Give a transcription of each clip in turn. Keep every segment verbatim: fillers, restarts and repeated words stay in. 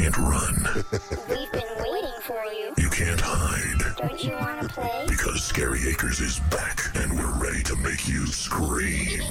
can't run. We've been waiting for you. You can't hide. Don't you want to play? Because Scary Acres is back, and we're ready to make you scream.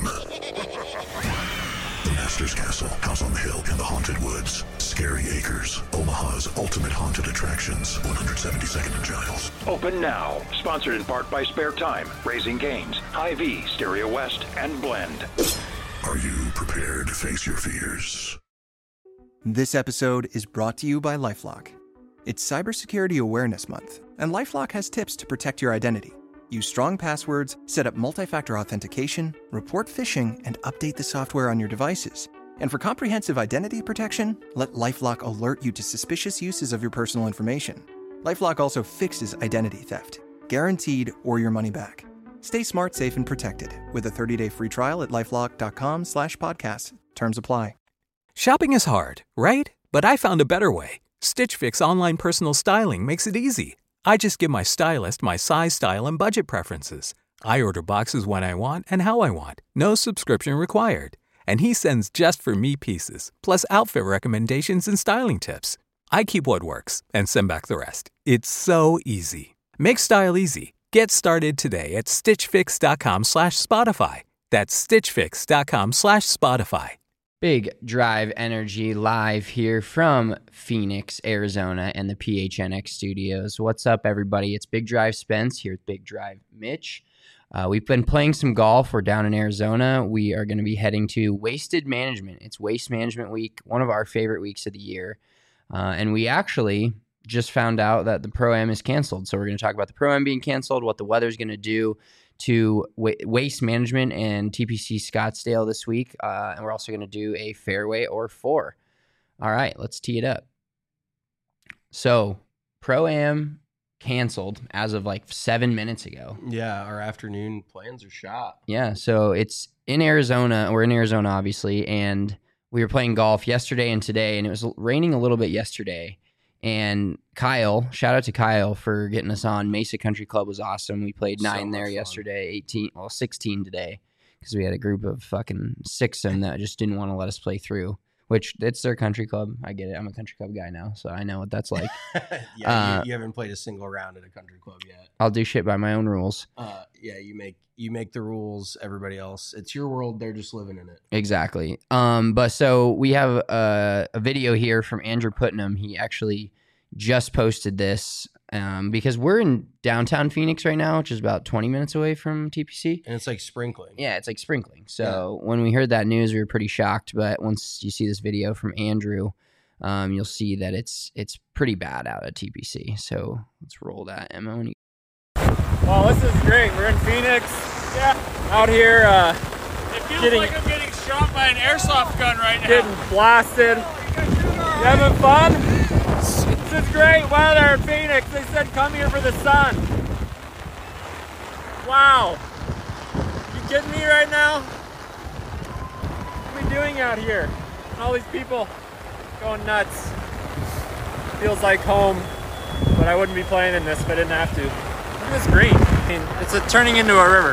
The Master's Castle, House on the Hill, and the Haunted Woods. Scary Acres, Omaha's ultimate haunted attractions. one seventy-second and Giles. Open now. Sponsored in part by Spare Time, Raising Cane's, Hy-Vee, Stereo West, and Blend. Are you prepared to face your fears? This episode is brought to you by LifeLock. It's Cybersecurity Awareness Month, and LifeLock has tips to protect your identity. Use strong passwords, set up multi-factor authentication, report phishing, and update the software on your devices. And for comprehensive identity protection, let LifeLock alert you to suspicious uses of your personal information. LifeLock also fixes identity theft, guaranteed or your money back. Stay smart, safe, and protected with a thirty-day free trial at LifeLock.com slash podcast. Terms apply. Shopping is hard, right? But I found a better way. Stitch Fix online personal styling makes it easy. I just give my stylist my size, style, and budget preferences. I order boxes when I want and how I want. No subscription required. And he sends just for me pieces, plus outfit recommendations and styling tips. I keep what works and send back the rest. It's so easy. Make style easy. Get started today at stitchfix.com slash Spotify. That's stitchfix.com slash Spotify. Big Drive Energy live here from Phoenix, Arizona, and the P H N X studios. What's up, everybody? It's Big Drive Spence here with Big Drive Mitch. Uh, we've been playing some golf. We're down in Arizona. We are going to be heading to Wasted Management. It's Waste Management Week, one of our favorite weeks of the year. Uh, and we actually just found out that the Pro-Am is canceled. So we're going to talk about the Pro-Am being canceled, what the weather's going to do to wa- Waste Management and T P C Scottsdale this week. Uh, and we're also going to do a fairway or four. All right, let's tee it up. So Pro-Am canceled as of like seven minutes ago. Yeah, our afternoon plans are shot. Yeah, so it's in Arizona. We're in Arizona, obviously, and we were playing golf yesterday and today, and it was raining a little bit yesterday. And Kyle, shout out to Kyle for getting us on. Mesa Country Club was awesome. We played nine so there fun. yesterday, eighteen, well, sixteen today, because we had a group of fucking six of them that just didn't want to let us play through. Which, it's their country club. I get it. I'm a country club guy now, so I know what that's like. yeah, uh, you, you haven't played a single round at a country club yet. I'll do shit by my own rules. Uh, yeah, you make you make the rules. Everybody else, it's your world. They're just living in it. Exactly. Um, but so we have a, a video here from Andrew Putnam. He actually just posted this um, because we're in downtown Phoenix right now, which is about twenty minutes away from T P C. And it's like sprinkling. Yeah, it's like sprinkling. So yeah. When we heard that news, we were pretty shocked. But once you see this video from Andrew, um, you'll see that it's it's pretty bad out at T P C. So let's roll that, Emma. When you- well, this is great. We're in Phoenix. Yeah. Out here. Uh, it feels getting, like I'm getting shot by an airsoft gun right now. Getting blasted. You having fun? This is great weather in Phoenix. They said come here for the sun. Wow. You kidding me right now? What are we doing out here? All these people going nuts. Feels like home, but I wouldn't be playing in this if I didn't have to. Look at this green. I mean, it's a, turning into a river.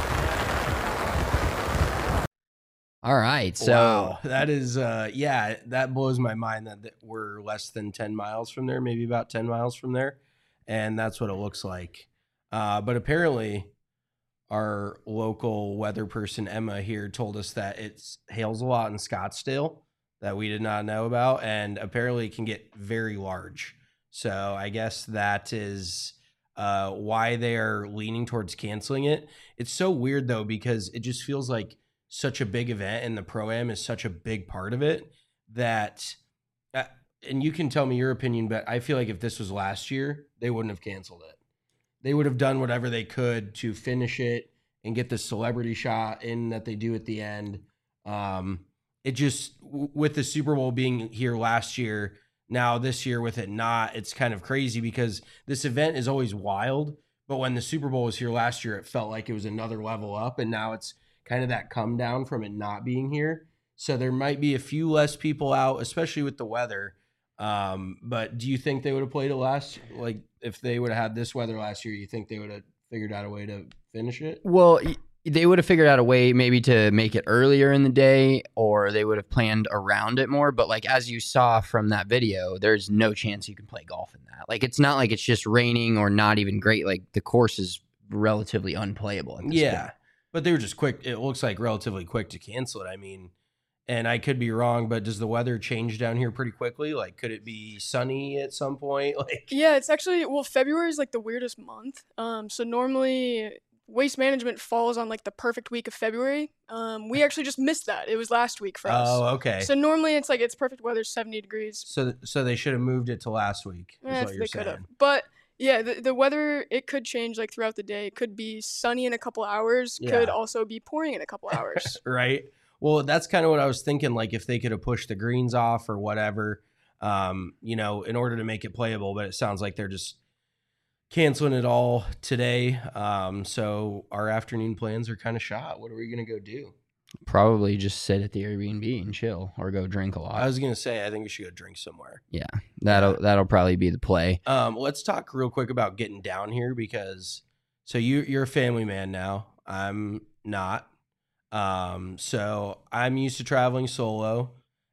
All right, so wow. that is, uh, yeah, that blows my mind that, that we're less than ten miles from there, maybe about ten miles from there, and that's what it looks like. Uh, but apparently, our local weather person Emma here told us that it hails a lot in Scottsdale that we did not know about, and apparently it can get very large. So I guess that is uh, why they are leaning towards canceling it. It's so weird though because it just feels like such a big event and the Pro-Am is such a big part of it that, uh, and you can tell me your opinion, but I feel like if this was last year, they wouldn't have canceled it. They would have done whatever they could to finish it and get the celebrity shot in that they do at the end. Um, it just, with the Super Bowl being here last year, now this year with it not, it's kind of crazy because this event is always wild. But when the Super Bowl was here last year, it felt like it was another level up. And now it's kind of that come down from it not being here. So there might be a few less people out, especially with the weather. Um, but do you think they would have played it last? Like if they would have had this weather last year, you think they would have figured out a way to finish it? Well, they would have figured out a way maybe to make it earlier in the day, or they would have planned around it more. But like, as you saw from that video, there's no chance you can play golf in that. Like, it's not like it's just raining or not even great. Like, the course is relatively unplayable. At this Yeah. point. But they were just quick. It looks like relatively quick to cancel it. I mean, and I could be wrong, but does the weather change down here pretty quickly? Like, could it be sunny at some point? Like, Yeah, it's actually, well, February is like the weirdest month. Um, so normally Waste Management falls on like the perfect week of February. Um, we actually just missed that. It was last week for us. oh, okay. So normally it's like it's perfect weather, seventy degrees. So, so they should have moved it to last week. Is Eh, what you're they could have. saying. But yeah, the, the weather, it could change like throughout the day. It could be sunny in a couple hours, could Yeah. also be pouring in a couple hours. Right. Well, that's kind of what I was thinking. Like, if they could have pushed the greens off or whatever, um, you know, in order to make it playable. But it sounds like they're just canceling it all today. Um, so our afternoon plans are kind of shot. What are we gonna go do? Probably just sit at the Airbnb and chill, or go drink a lot. I was gonna say I think we should go drink somewhere. yeah, that'll that'll probably be the play. Um, let's talk real quick about getting down here because so you you're a family man now. I'm not. Um, so I'm used to traveling solo,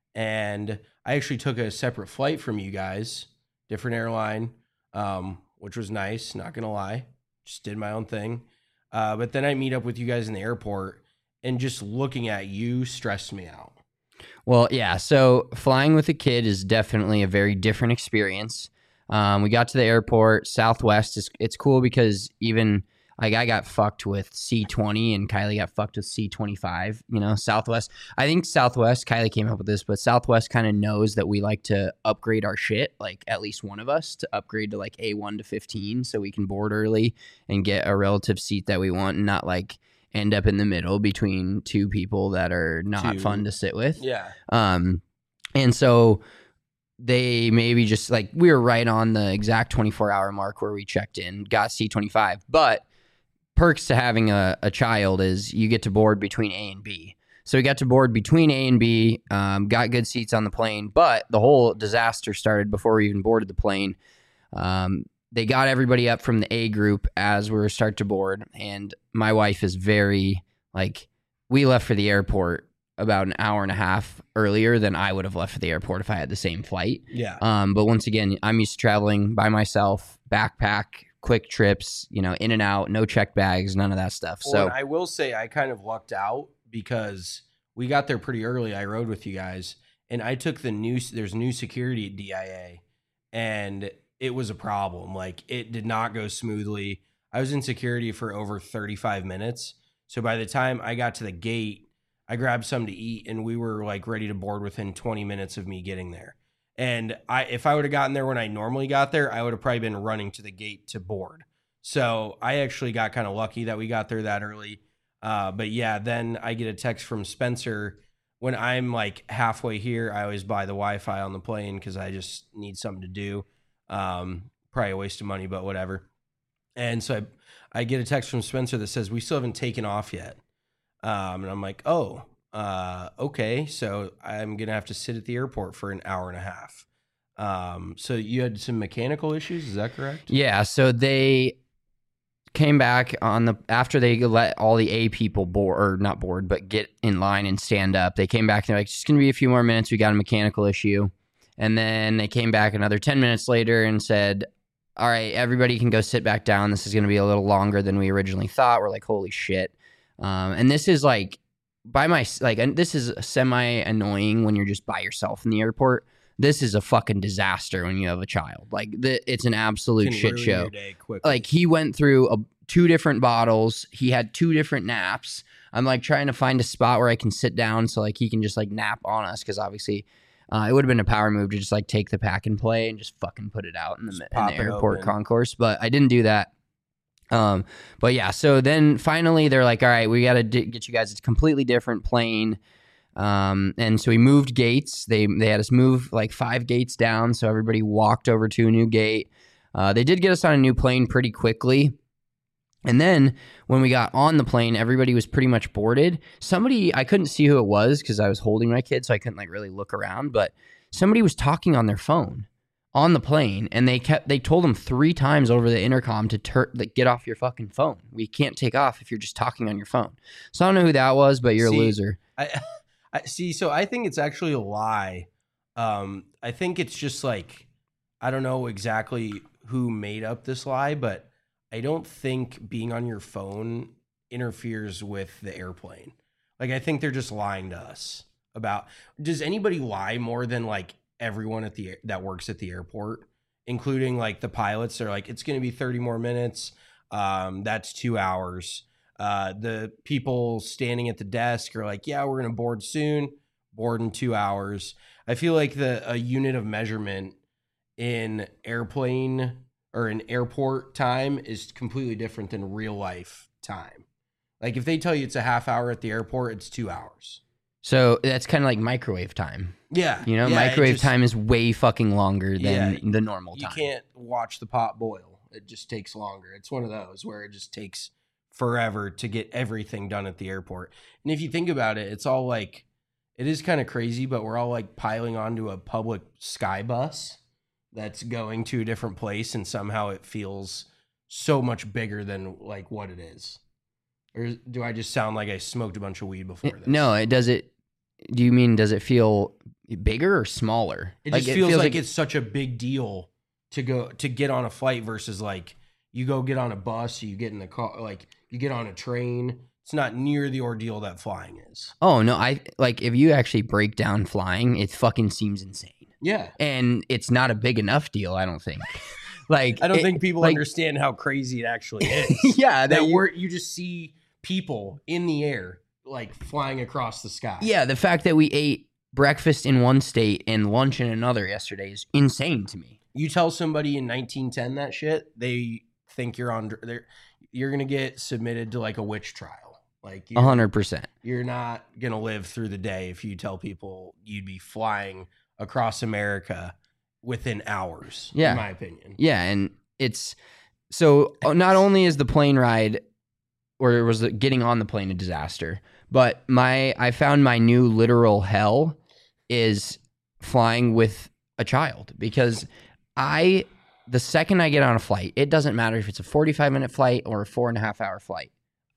and I actually took a separate flight from you guys, different airline, um, which was nice. Not gonna lie, just did my own thing. Uh, but then I meet up with you guys in the airport, and just looking at you stressed me out. Well, yeah. So flying with a kid is definitely a very different experience. Um, we got to the airport. Southwest is it's cool because even like I got fucked with C twenty and Kylie got fucked with C twenty-five. You know, Southwest. I think Southwest. Kylie came up with this, but Southwest kind of knows that we like to upgrade our shit. Like at least one of us to upgrade to like A one to fifteen, so we can board early and get a relative seat that we want, and not like end up in the middle between two people that are not Two. fun to sit with. Yeah. Um, and so they maybe just like we were right on the exact twenty-four hour mark where we checked in, got C twenty-five. But perks to having a, a child is you get to board between A and B. So we got to board between A and B, um, got good seats on the plane, but the whole disaster started before we even boarded the plane. Um, they got everybody up from the A group as we were start to board, and my wife is very like, we left for the airport about an hour and a half earlier than I would have left for the airport if I had the same flight. Yeah. Um, but once again, I'm used to traveling by myself, backpack, quick trips, you know, in and out, no checked bags, none of that stuff. Well, So and I will say I kind of lucked out because we got there pretty early. I rode with you guys, and I took the new. There's new security at D I A, and it was a problem. Like, it did not go smoothly. I was in security for over thirty-five minutes. So by the time I got to the gate, I grabbed something to eat, and we were like ready to board within twenty minutes of me getting there. And I, if I would have gotten there when I normally got there, I would have probably been running to the gate to board. So I actually got kind of lucky that we got there that early. Uh, but yeah, then I get a text from Spencer when I'm like halfway here. I always buy the Wi-Fi on the plane because I just need something to do. Um, probably a waste of money, but whatever. And so I, I get a text from Spencer that says, we still haven't taken off yet. Um, and I'm like, oh, uh, okay. So I'm going to have to sit at the airport for an hour and a half. Um, so you had some mechanical issues. Is that correct? yeah, so they came back on the after they let all the A people board or not board, but get in line and stand up. They came back and they're like, it's just going to be a few more minutes. We got a mechanical issue. And then they came back another ten minutes later and said, all right, everybody can go sit back down. This is going to be a little longer than we originally thought. We're like, holy shit. Um, and this is like by my, like, and this is semi annoying when you're just by yourself in the airport. This is a fucking disaster when you have a child. Like, the, it's an absolute Can shit ruin show. your day quickly. Like, he went through a, two different bottles. He had two different naps. I'm like trying to find a spot where I can sit down so like he can just like nap on us, because obviously uh, it would have been a power move to just like take the pack and play and just fucking put it out in the, in pop the it airport open. concourse. But I didn't do that. Um, but yeah, so then finally they're like, all right, we got to d- get you guys a completely different plane. Um, and so we moved gates. They they had us move like five gates down, so everybody walked over to a new gate. Uh, they did get us on a new plane pretty quickly. And then when we got on the plane, everybody was pretty much boarded. Somebody, I couldn't see who it was because I was holding my kid, so I couldn't like really look around. But somebody was talking on their phone on the plane, and they kept they told him three times over the intercom to tur- like, get off your fucking phone. We can't take off if you're just talking on your phone. So I don't know who that was, but you're See, a loser. I, I see. So I think it's actually a lie. Um, I think it's just like, I don't know exactly who made up this lie, but I don't think being on your phone interferes with the airplane. Like, I think they're just lying to us about, does anybody lie more than like everyone at the that works at the airport, including like the pilots? Are like, it's going to be thirty more minutes. Um, that's two hours. Uh, the people standing at the desk are like, yeah, we're going to board soon, board in two hours. I feel like the a unit of measurement in airplane or in airport time is completely different than real life time. Like, if they tell you it's a half hour at the airport, it's two hours. So that's kind of like microwave time. Yeah. You know, yeah, microwave just, time is way fucking longer than yeah, the normal you time. You can't watch the pot boil. It just takes longer. It's one of those where it just takes forever to get everything done at the airport. And if you think about it, it's all like, it is kind of crazy, but we're all like piling onto a public sky bus that's going to a different place, and somehow it feels so much bigger than like what it is. Or do I just sound like I smoked a bunch of weed before this? No, it does it. Do you mean, does it feel bigger or smaller? It like, just it feels, feels like, like it's such a big deal to go to get on a flight versus like you go get on a bus, you get in the car, like you get on a train. It's not near the ordeal that flying is. Oh no, I like if you actually break down flying, it fucking seems insane. Yeah, and it's not a big enough deal, I don't think. Like, I don't it, think people like, understand how crazy it actually is. Yeah, that you, we're you just see people in the air like flying across the sky. Yeah, the fact that we ate breakfast in one state and lunch in another yesterday is insane to me. You tell somebody in nineteen ten that shit, they think you're on. They're, you're gonna get submitted to like a witch trial. Like a hundred percent. You're not gonna live through the day if you tell people you'd be flying across America within hours. Yeah, in my opinion. Yeah, and it's so not only is the plane ride, or was it getting on the plane, a disaster, but my I found my new literal hell is flying with a child, because I the second I get on a flight, it doesn't matter if it's a forty-five minute flight or a four and a half hour flight,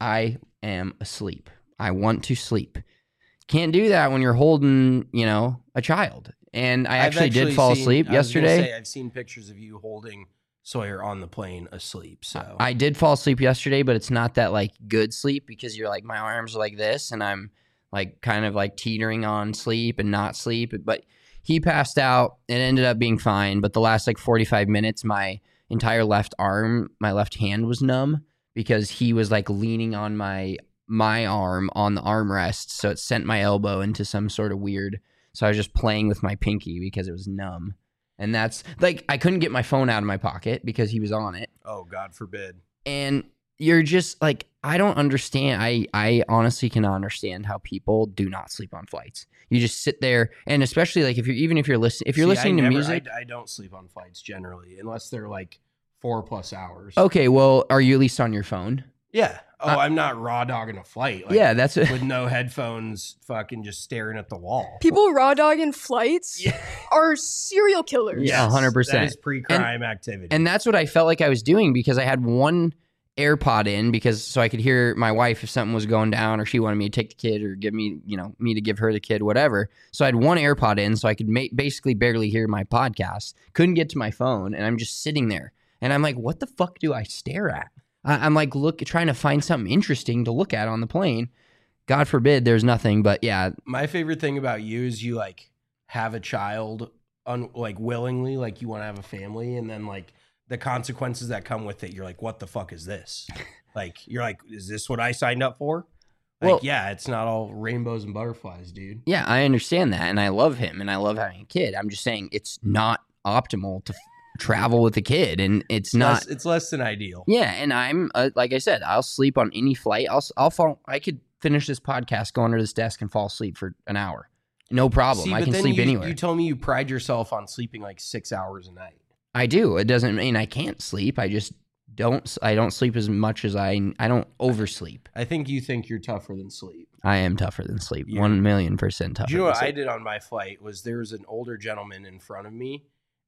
I am asleep. I want to sleep. Can't do that when you're holding, you know, a child. And I actually, actually did fall seen, asleep I yesterday. Say, I've seen pictures of you holding Sawyer on the plane asleep. So I did fall asleep yesterday, but it's not that like good sleep, because you're like, my arms are like this and I'm like kind of like teetering on sleep and not sleep. But he passed out. It ended up being fine. But the last like forty-five minutes, my entire left arm, my left hand was numb, because he was like leaning on my my arm on the armrest. So it sent my elbow into some sort of weird. So I was just playing with my pinky because it was numb. And that's like, I couldn't get my phone out of my pocket because he was on it. Oh, God forbid. And you're just like, I don't understand. I, I honestly cannot understand how people do not sleep on flights. You just sit there, and especially like if you're, even if you're listening, if you're See, listening I to never, music. I, I don't sleep on flights generally, unless they're like four plus hours. Okay. Well, are you at least on your phone? Yeah. Oh, Uh, I'm not raw dogging a flight. Like, yeah, that's with no headphones, fucking just staring at the wall. People raw dogging flights Yeah. are serial killers. Yeah, one hundred percent. That is pre-crime activity. And that's what I felt like I was doing, because I had one AirPod in, because so I could hear my wife if something was going down, or she wanted me to take the kid, or give me, you know, me to give her the kid, whatever. So I had one AirPod in, so I could ma- basically barely hear my podcast. Couldn't get to my phone, and I'm just sitting there, and I'm like, what the fuck do I stare at? I- I'm like, look, trying to find something interesting to look at on the plane. God forbid there's nothing, but yeah. My favorite thing about you is you like have a child un- like willingly, like you want to have a family, and then like the consequences that come with it, you're like, what the fuck is this? Like, you're like, is this what I signed up for? Like, Well- yeah, it's not all rainbows and butterflies, dude. Yeah, I understand that, and I love him, and I love having a kid. I'm just saying it's not optimal to f- travel with a kid, and it's not. Less, it's less than ideal. Yeah, and I'm uh, like I said, I'll sleep on any flight. I'll I'll fall. I could finish this podcast, go under this desk, and fall asleep for an hour, no problem. See, I but can then sleep you, anywhere. You told me you pride yourself on sleeping like six hours a night. I do. It doesn't mean I can't sleep. I just don't. I don't sleep as much as I. I don't oversleep. I think you think you're tougher than sleep. I am tougher than sleep. Yeah. One million percent tougher. Do you know than what sleep. I did on my flight was there was an older gentleman in front of me,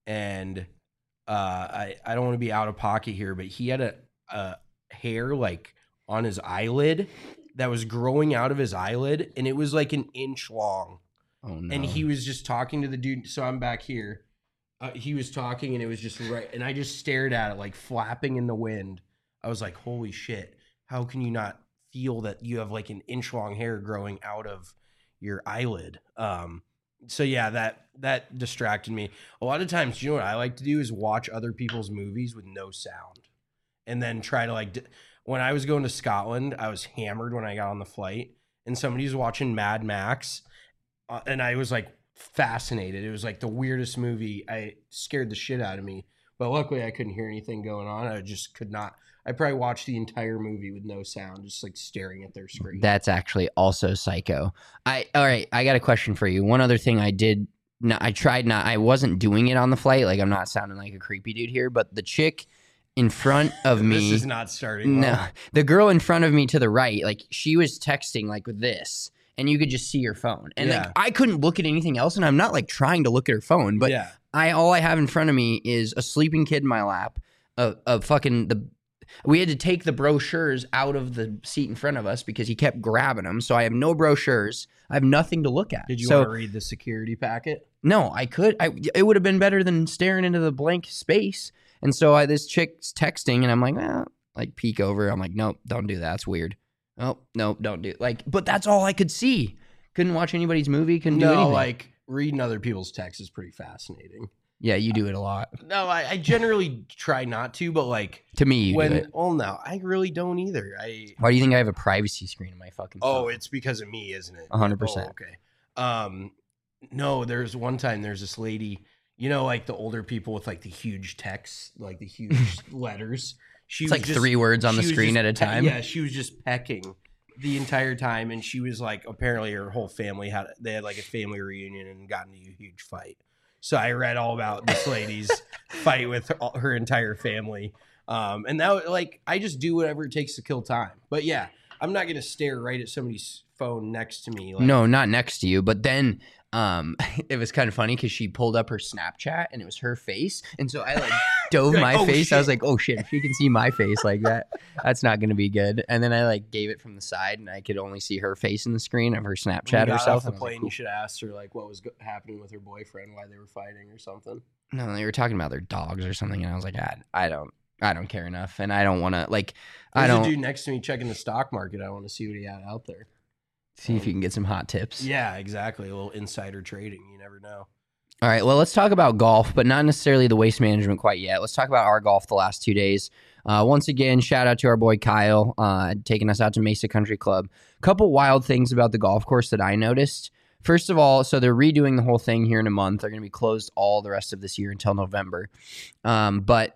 and uh, I I don't want to be out of pocket here, but he had a, a hair like on his eyelid that was growing out of his eyelid, and it was like an inch long. Oh no! And he was just talking to the dude. So I'm back here. Uh, he was talking, and it was just right. And I just stared at it, like flapping in the wind. I was like, "Holy shit! How can you not feel that you have like an inch long hair growing out of your eyelid?" Um, so yeah, that that distracted me. A lot of times, you know what I like to do is watch other people's movies with no sound, and then try to like. D- when I was going to Scotland, I was hammered when I got on the flight, and somebody was watching Mad Max, uh, and I was like. Fascinated. It was like the weirdest movie. I scared the shit out of me, but luckily I couldn't hear anything going on. I just could not. I probably watched the entire movie with no sound, just like staring at their screen. That's actually also psycho. I all right. I got a question for you. One other thing I did. No, I tried not. I wasn't doing it on the flight. Like I'm not sounding like a creepy dude here, but the chick in front of me. This is not starting. Well. No, the girl in front of me to the right, like she was texting like with this. And you could just see her phone. And yeah. like I couldn't look at anything else. And I'm not like trying to look at her phone. But yeah. I all I have in front of me is a sleeping kid in my lap. A, a fucking the we had to take the brochures out of the seat in front of us because he kept grabbing them. So I have no brochures. I have nothing to look at. Did you so, want to read the security packet? No, I could. I it would have been better than staring into the blank space. And so I this chick's texting and I'm like, well, like peek over. I'm like, nope, don't do that. That's weird. Oh, no, don't do it. Like, but that's all I could see. Couldn't watch anybody's movie. Couldn't no, do anything. like reading other people's texts is pretty fascinating. Yeah, you do it a lot. No, I, I generally try not to, but like to me, you when do it. Well, no, I really don't either. I. Why do you think I have a privacy screen in my fucking phone? Oh, it's because of me, isn't it? A hundred percent. Oh, okay. Um, no, there's one time there's this lady. You know, like the older people with like the huge text, like the huge letters. She it's was like just, three words on the she was screen just at a pe- time. Yeah, she was just pecking the entire time, and she was like, apparently her whole family had they had like a family reunion and got into a huge fight. So I read all about this lady's fight with her, her entire family, um, and that like I just do whatever it takes to kill time. But yeah, I'm not gonna stare right at somebody's phone next to me. Like, no, not next to you. But then um, it was kind of funny because she pulled up her Snapchat and it was her face, and so I like dove like, my oh, face. shit. I was like, oh shit, if she can see my face like that, that's not going to be good. And then I like gave it from the side, and I could only see her face in the screen of her when you Snapchat got herself. off the And I was plane, like, you should have asked her like what was go- happening with her boyfriend, why they were fighting or something. no, they were talking about their dogs or something, and I was like, I, I don't, I don't care enough, and I don't want to like, I There's don't a dude next to me checking the stock market. I want to see what he had out there. see if you can get some hot tips. Yeah, exactly. A little insider trading. You never know. All right, well, let's talk about golf, but not necessarily the waste management quite yet. Let's talk about our golf the last two days. Uh, once again, shout out to our boy Kyle, uh, taking us out to Mesa Country Club. A couple wild things about the golf course that I noticed. First of all, so they're redoing the whole thing here in a month. They're going to be closed all the rest of this year until November. Um, but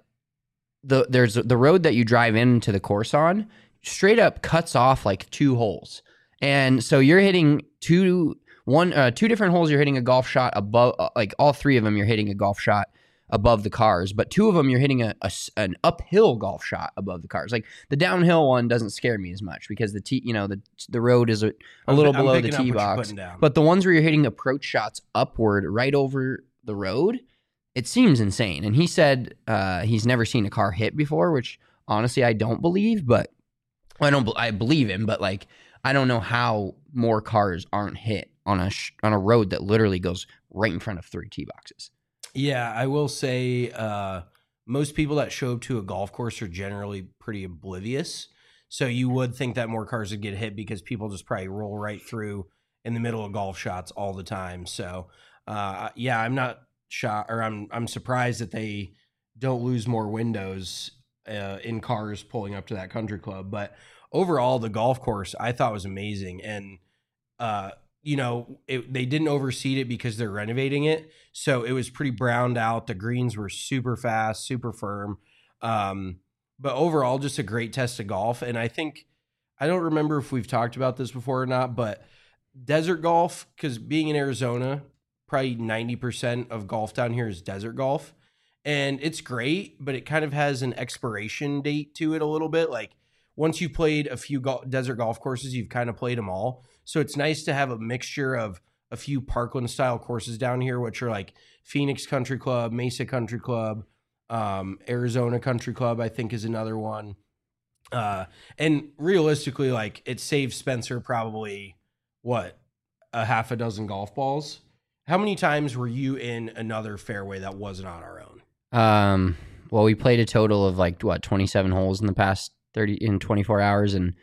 the there's the road that you drive into the course on straight up cuts off like two holes. And so you're hitting two one uh, two different holes. You're hitting a golf shot above, uh, like all three of them. You're hitting a golf shot above the cars, but two of them you're hitting a, a an uphill golf shot above the cars. Like the downhill one doesn't scare me as much because the tee, you know, the the road is a, a I'm- little I'm below the picking up tee what you're box. putting down. But the ones where you're hitting approach shots upward right over the road, it seems insane. And he said uh, he's never seen a car hit before, which honestly I don't believe, but I don't. I believe him, but like I don't know how more cars aren't hit on a sh- on a road that literally goes right in front of three tee boxes. Yeah, I will say uh, most people that show up to a golf course are generally pretty oblivious. So you would think that more cars would get hit because people just probably roll right through in the middle of golf shots all the time. So uh, yeah, I'm not shocked, or I'm I'm surprised that they don't lose more windows uh, in cars pulling up to that country club. But overall, the golf course I thought was amazing, and uh, you know, it, they didn't overseed it because they're renovating it. So it was pretty browned out. The greens were super fast, super firm. Um, but overall, just a great test of golf. And I think, I don't remember if we've talked about this before or not, but desert golf, because being in Arizona, probably ninety percent of golf down here is desert golf. And it's great, but it kind of has an expiration date to it a little bit. Like once you've played a few go- desert golf courses, you've kind of played them all. So it's nice to have a mixture of a few Parkland style courses down here, which are like Phoenix Country Club, Mesa Country Club, um, Arizona Country Club, I think is another one. Uh, and realistically, like it saves Spencer probably what, a half a dozen golf balls. How many times were you in another fairway that wasn't on our own? Um, well, we played a total of like what, twenty-seven holes in the past thirty in twenty-four hours. And,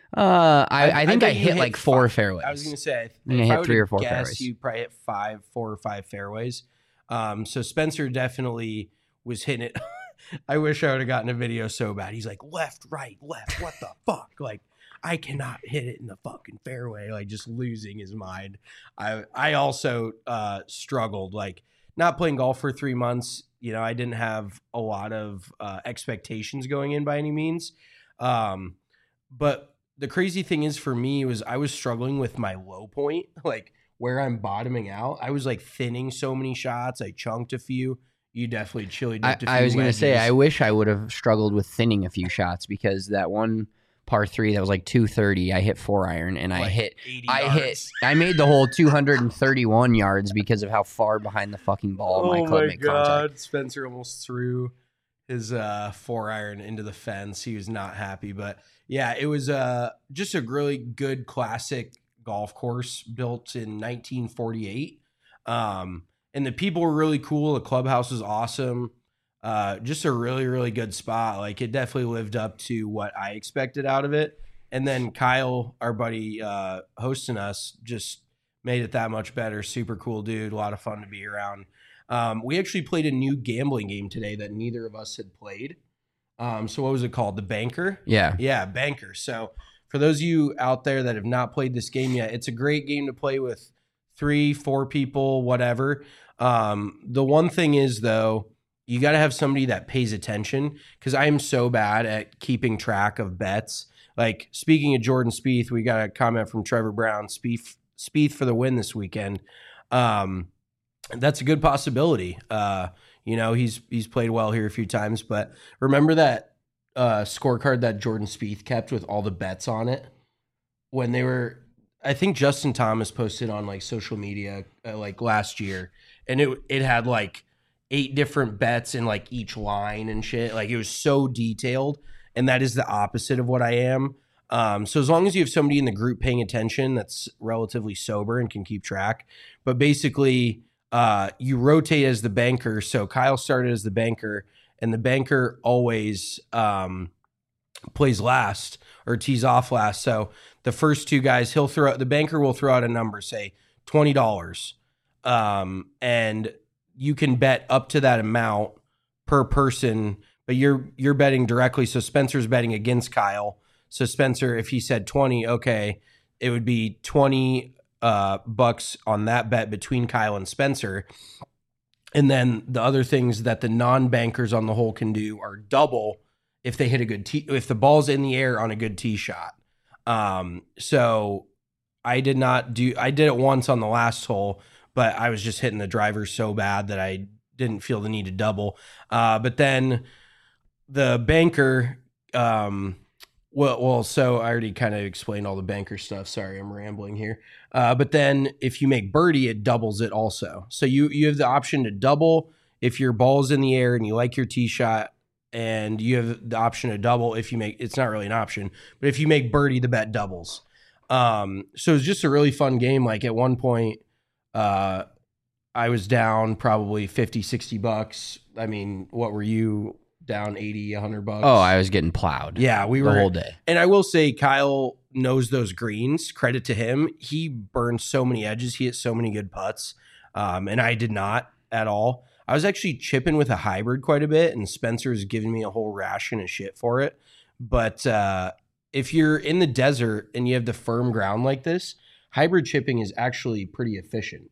uh, I, I, I think I, I hit, hit like four five. fairways. I was going to say, I, I hit three or four guess, fairways. You probably hit five, four or five fairways. Um, so Spencer definitely was hitting it. I wish I would have gotten a video so bad. He's like left, right, left. What the fuck? Like, I cannot hit it in the fucking fairway. Like just losing his mind. I I also uh, struggled. Like not playing golf for three months. You know, I didn't have a lot of uh, expectations going in by any means. Um, but the crazy thing is for me was I was struggling with my low point, like where I'm bottoming out. I was like thinning so many shots. I chunked a few. You definitely chili dipped a few I, I was going to say, I wedges. wish I would have struggled with thinning a few shots because that one par three that was like two thirty, I hit four iron and I Like hit, eighty I yards. hit, I made the hole two hundred thirty-one yards because of how far behind the fucking ball my Oh club my made god! contact. Spencer almost threw his uh, four iron into the fence. He was not happy, but yeah, it was uh, just a really good classic golf course built in nineteen forty-eight. Um, and the people were really cool. The clubhouse was awesome. Uh, just a really, really good spot. Like it definitely lived up to what I expected out of it. And then Kyle, our buddy, uh, hosting us, just made it that much better. Super cool dude. A lot of fun to be around. Um, we actually played a new gambling game today that neither of us had played. Um, so what was it called? The Banker? Yeah. Yeah, Banker. So for those of you out there that have not played this game yet, it's a great game to play with three, four people, whatever. Um, the one thing is, though, you got to have somebody that pays attention because I am so bad at keeping track of bets. Like, speaking of Jordan Spieth, we got a comment from Trevor Brown, Spieth, Spieth for the win this weekend. Um, that's a good possibility. Uh, you know, he's he's played well here a few times, but remember that uh, scorecard that Jordan Spieth kept with all the bets on it when they were, I think Justin Thomas posted on like social media uh, like last year, and it it had like eight different bets in like each line and shit. Like it was so detailed, and that is the opposite of what I am. Um, so as long as you have somebody in the group paying attention that's relatively sober and can keep track, but basically uh, you rotate as the banker. So Kyle started as the banker, and the banker always um, plays last or tees off last. So the first two guys, he'll throw out, the banker will throw out a number, say twenty dollars. Um, and you can bet up to that amount per person, but you're you're betting directly. So Spencer's betting against Kyle. So Spencer, if he said twenty, okay, it would be twenty uh, bucks on that bet between Kyle and Spencer. And then the other things that the non-bankers on the hole can do are double if they hit a good tee, if the ball's in the air on a good tee shot. Um, so I did not do, I did it once on the last hole, but I was just hitting the driver so bad that I didn't feel the need to double. Uh, but then the banker, um, well, well, so I already kind of explained all the banker stuff. Sorry, I'm rambling here. Uh, but then if you make birdie, it doubles it also. So you you have the option to double if your ball's in the air and you like your tee shot, and you have the option to double if you make, it's not really an option, but if you make birdie, the bet doubles. Um, so it's just a really fun game. Like at one point, uh, I was down probably fifty, sixty bucks. I mean, what were you down? eighty, a hundred bucks? Oh, I was getting plowed. Yeah, we the were whole day. And I will say Kyle knows those greens. Credit to him. He burned so many edges. He hit so many good putts. Um, and I did not at all. I was actually chipping with a hybrid quite a bit, and Spencer's giving me a whole ration of shit for it. But uh, if you're in the desert and you have the firm ground like this, hybrid chipping is actually pretty efficient.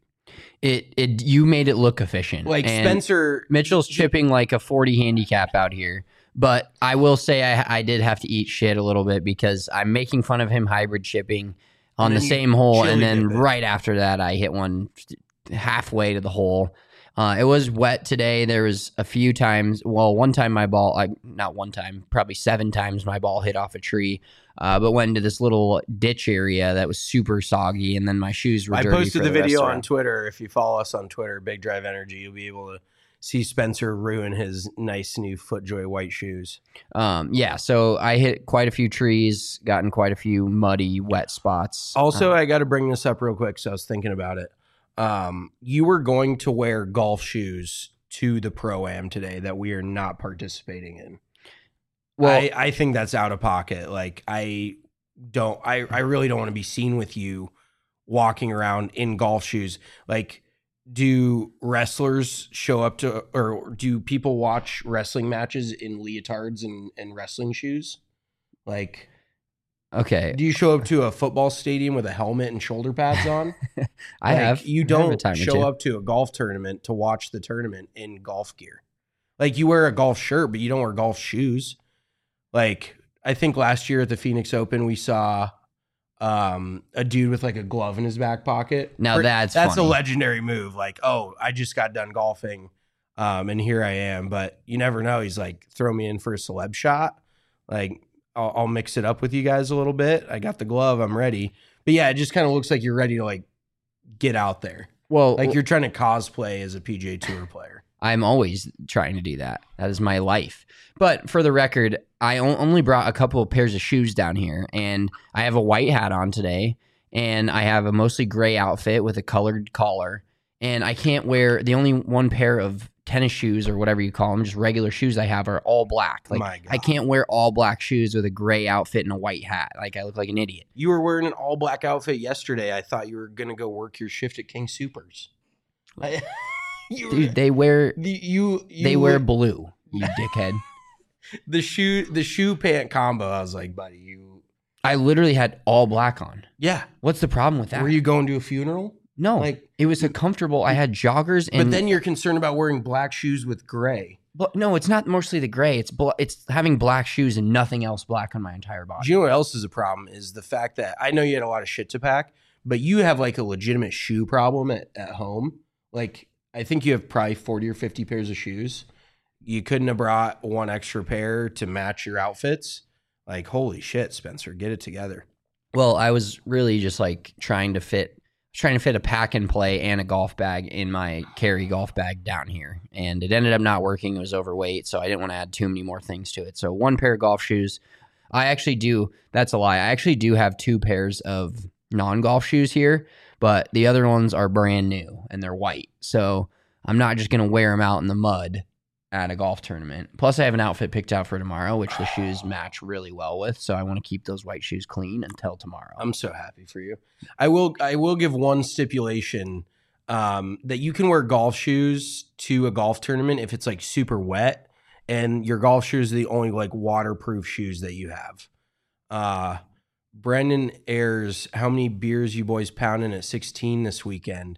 It it you made it look efficient. Like And Spencer, Mitchell's chipping like a forty handicap out here. But I will say I, I did have to eat shit a little bit because I'm making fun of him hybrid chipping on And the then you same hole, chili and then dip it. right after that I hit one halfway to the hole Uh, it was wet today. There was a few times. Well, one time my ball, I, not one time, probably seven times my ball hit off a tree, uh, but went into this little ditch area that was super soggy, and then my shoes were I dirty. posted for the the video restaurant. on Twitter. If you follow us on Twitter, Big Drive Energy, you'll be able to see Spencer ruin his nice new FootJoy white shoes. Um, yeah, so I hit quite a few trees, gotten quite a few muddy, wet spots. Also, Um, I got to bring this up real quick, so I was thinking about it. Um, you were going to wear golf shoes to the Pro-Am today that we are not participating in. Well, I, I think that's out of pocket. Like, I don't, I, I really don't want to be seen with you walking around in golf shoes. Like, do wrestlers show up to, or do people watch wrestling matches in leotards and, and wrestling shoes? Like, okay. do you show up to a football stadium with a helmet and shoulder pads on? I Like, have. You I have a don't time or show two. up to a golf tournament to watch the tournament in golf gear. Like, you wear a golf shirt, but you don't wear golf shoes. Like, I think last year at the Phoenix Open, we saw um, a dude with like a glove in his back pocket. Now Pre- that's that's funny. a legendary move. Like, oh, I just got done golfing, um, and here I am. But you never know. He's like, throw me in for a celeb shot. Like, I'll, I'll mix it up with you guys a little bit. I got the glove. I'm ready. But yeah, it just kind of looks like you're ready to like get out there. Well, Like you're trying to cosplay as a P G A Tour player. I'm always trying to do that. That is my life. But for the record, I o- only brought a couple of pairs of shoes down here, and I have a white hat on today, and I have a mostly gray outfit with a colored collar, and I can't wear the only one pair of tennis shoes or whatever you call them, just regular shoes I have are all black. Like My God. I can't wear all black shoes with a gray outfit and a white hat. Like I look like an idiot. You were wearing an all black outfit yesterday. I thought you were gonna go work your shift at King Supers. I, you, Dude, they wear the, you, you they wear blue, you dickhead. the shoe the shoe pant combo. I was like, buddy, you. I literally had all black on. Yeah. What's the problem with that? Were you going to a funeral? No, Like, it was a comfortable. I had joggers, and but then you're concerned about wearing black shoes with gray. But no, it's not mostly the gray. It's bl- it's having black shoes and nothing else black on my entire body. Do you know what else is a problem? Is the fact that I know you had a lot of shit to pack, but you have like a legitimate shoe problem at, at home. Like, I think you have probably forty or fifty pairs of shoes. You couldn't have brought one extra pair to match your outfits. Like, holy shit, Spencer, get it together. Well, I was really just like trying to fit, trying to fit a pack and play and a golf bag in my carry golf bag down here, and it ended up not working. It was overweight, so I didn't want to add too many more things to it. So one pair of golf shoes. I actually do. That's a lie. I actually do have two pairs of non-golf shoes here, but the other ones are brand new and they're white. So I'm not just going to wear them out in the mud at a golf tournament. Plus, I have an outfit picked out for tomorrow, which the shoes match really well with. So I want to keep those white shoes clean until tomorrow. I'm so happy for you. I will I will give one stipulation um, that you can wear golf shoes to a golf tournament if it's like super wet, and your golf shoes are the only like waterproof shoes that you have. Uh, Brendan Ayers, how many beers you boys pounding at sixteen this weekend?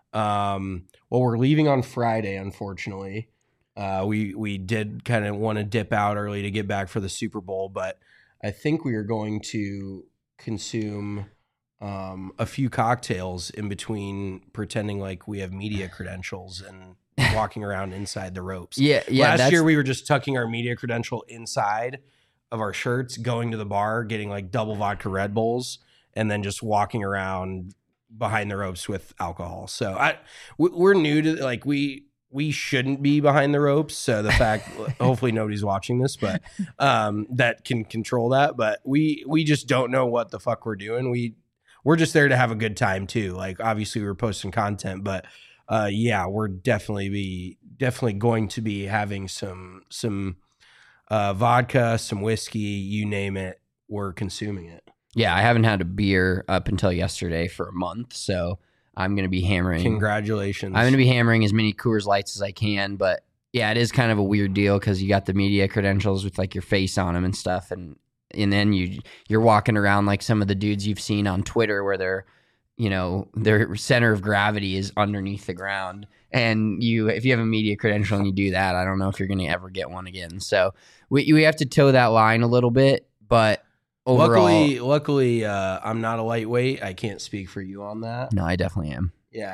Um, well, we're leaving on Friday, unfortunately. Uh, we we did kind of want to dip out early to get back for the Super Bowl, but I think we are going to consume um, a few cocktails in between, pretending like we have media credentials and walking around inside the ropes. Yeah, yeah. Last that's, year we were just tucking our media credential inside of our shirts, going to the bar, getting like double vodka Red Bulls, and then just walking around behind the ropes with alcohol. So I we- we're new to like we. We shouldn't be behind the ropes. So the fact, hopefully nobody's watching this, but um, that can control that. But we we just don't know what the fuck we're doing. We we're just there to have a good time too. Like obviously we're posting content, but uh, yeah, we're definitely be definitely going to be having some some uh, vodka, some whiskey, you name it. We're consuming it. Yeah, I haven't had a beer up until yesterday for a month, so I'm going to be hammering. Congratulations. I'm going to be hammering as many Coors Lights as I can, but yeah, it is kind of a weird deal because you got the media credentials with like your face on them and stuff, and and then you you're walking around like some of the dudes you've seen on Twitter where they're, you know, their center of gravity is underneath the ground, and you if you have a media credential and you do that, I don't know if you're going to ever get one again. So we we have to toe that line a little bit, but overall, luckily, luckily, uh, I'm not a lightweight. I can't speak for you on that. no, I definitely am. Yeah.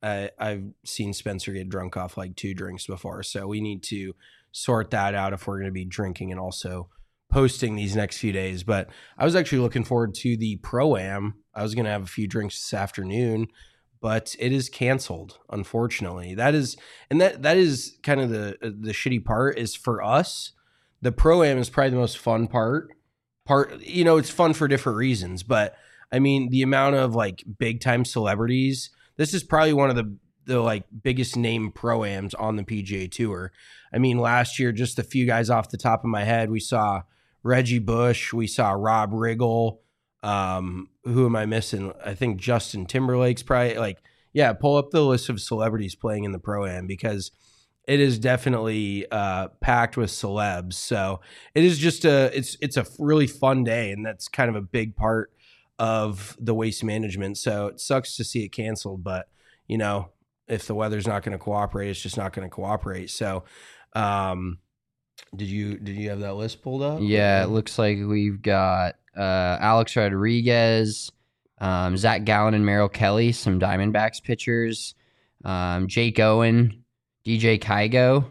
I, I've seen Spencer get drunk off like two drinks before. So we need to sort that out if we're going to be drinking and also posting these next few days. But I was actually looking forward to the Pro-Am. I was going to have a few drinks this afternoon, but it is canceled, unfortunately. That is, and that that is kind of the the shitty part is for us, the Pro-Am is probably the most fun part. Part, you know, it's fun for different reasons, but I mean, the amount of like big time celebrities, this is probably one of the the like biggest name Pro-Ams on the P G A Tour. I mean, last year, just a few guys off the top of my head, we saw Reggie Bush, we saw Rob Riggle. Um, who am I missing? I think Justin Timberlake's probably like, yeah, pull up the list of celebrities playing in the Pro-Am because it is definitely uh, packed with celebs. So it is just a, it's, it's a really fun day. And that's kind of a big part of the Waste Management. So it sucks to see it canceled, but you know, if the weather's not going to cooperate, it's just not going to cooperate. So, um, did you, did you have that list pulled up? Yeah, it looks like we've got uh, Alex Rodriguez, um, Zach Gallen and Merrill Kelly, some Diamondbacks pitchers, um, Jake Owen, D J Kygo.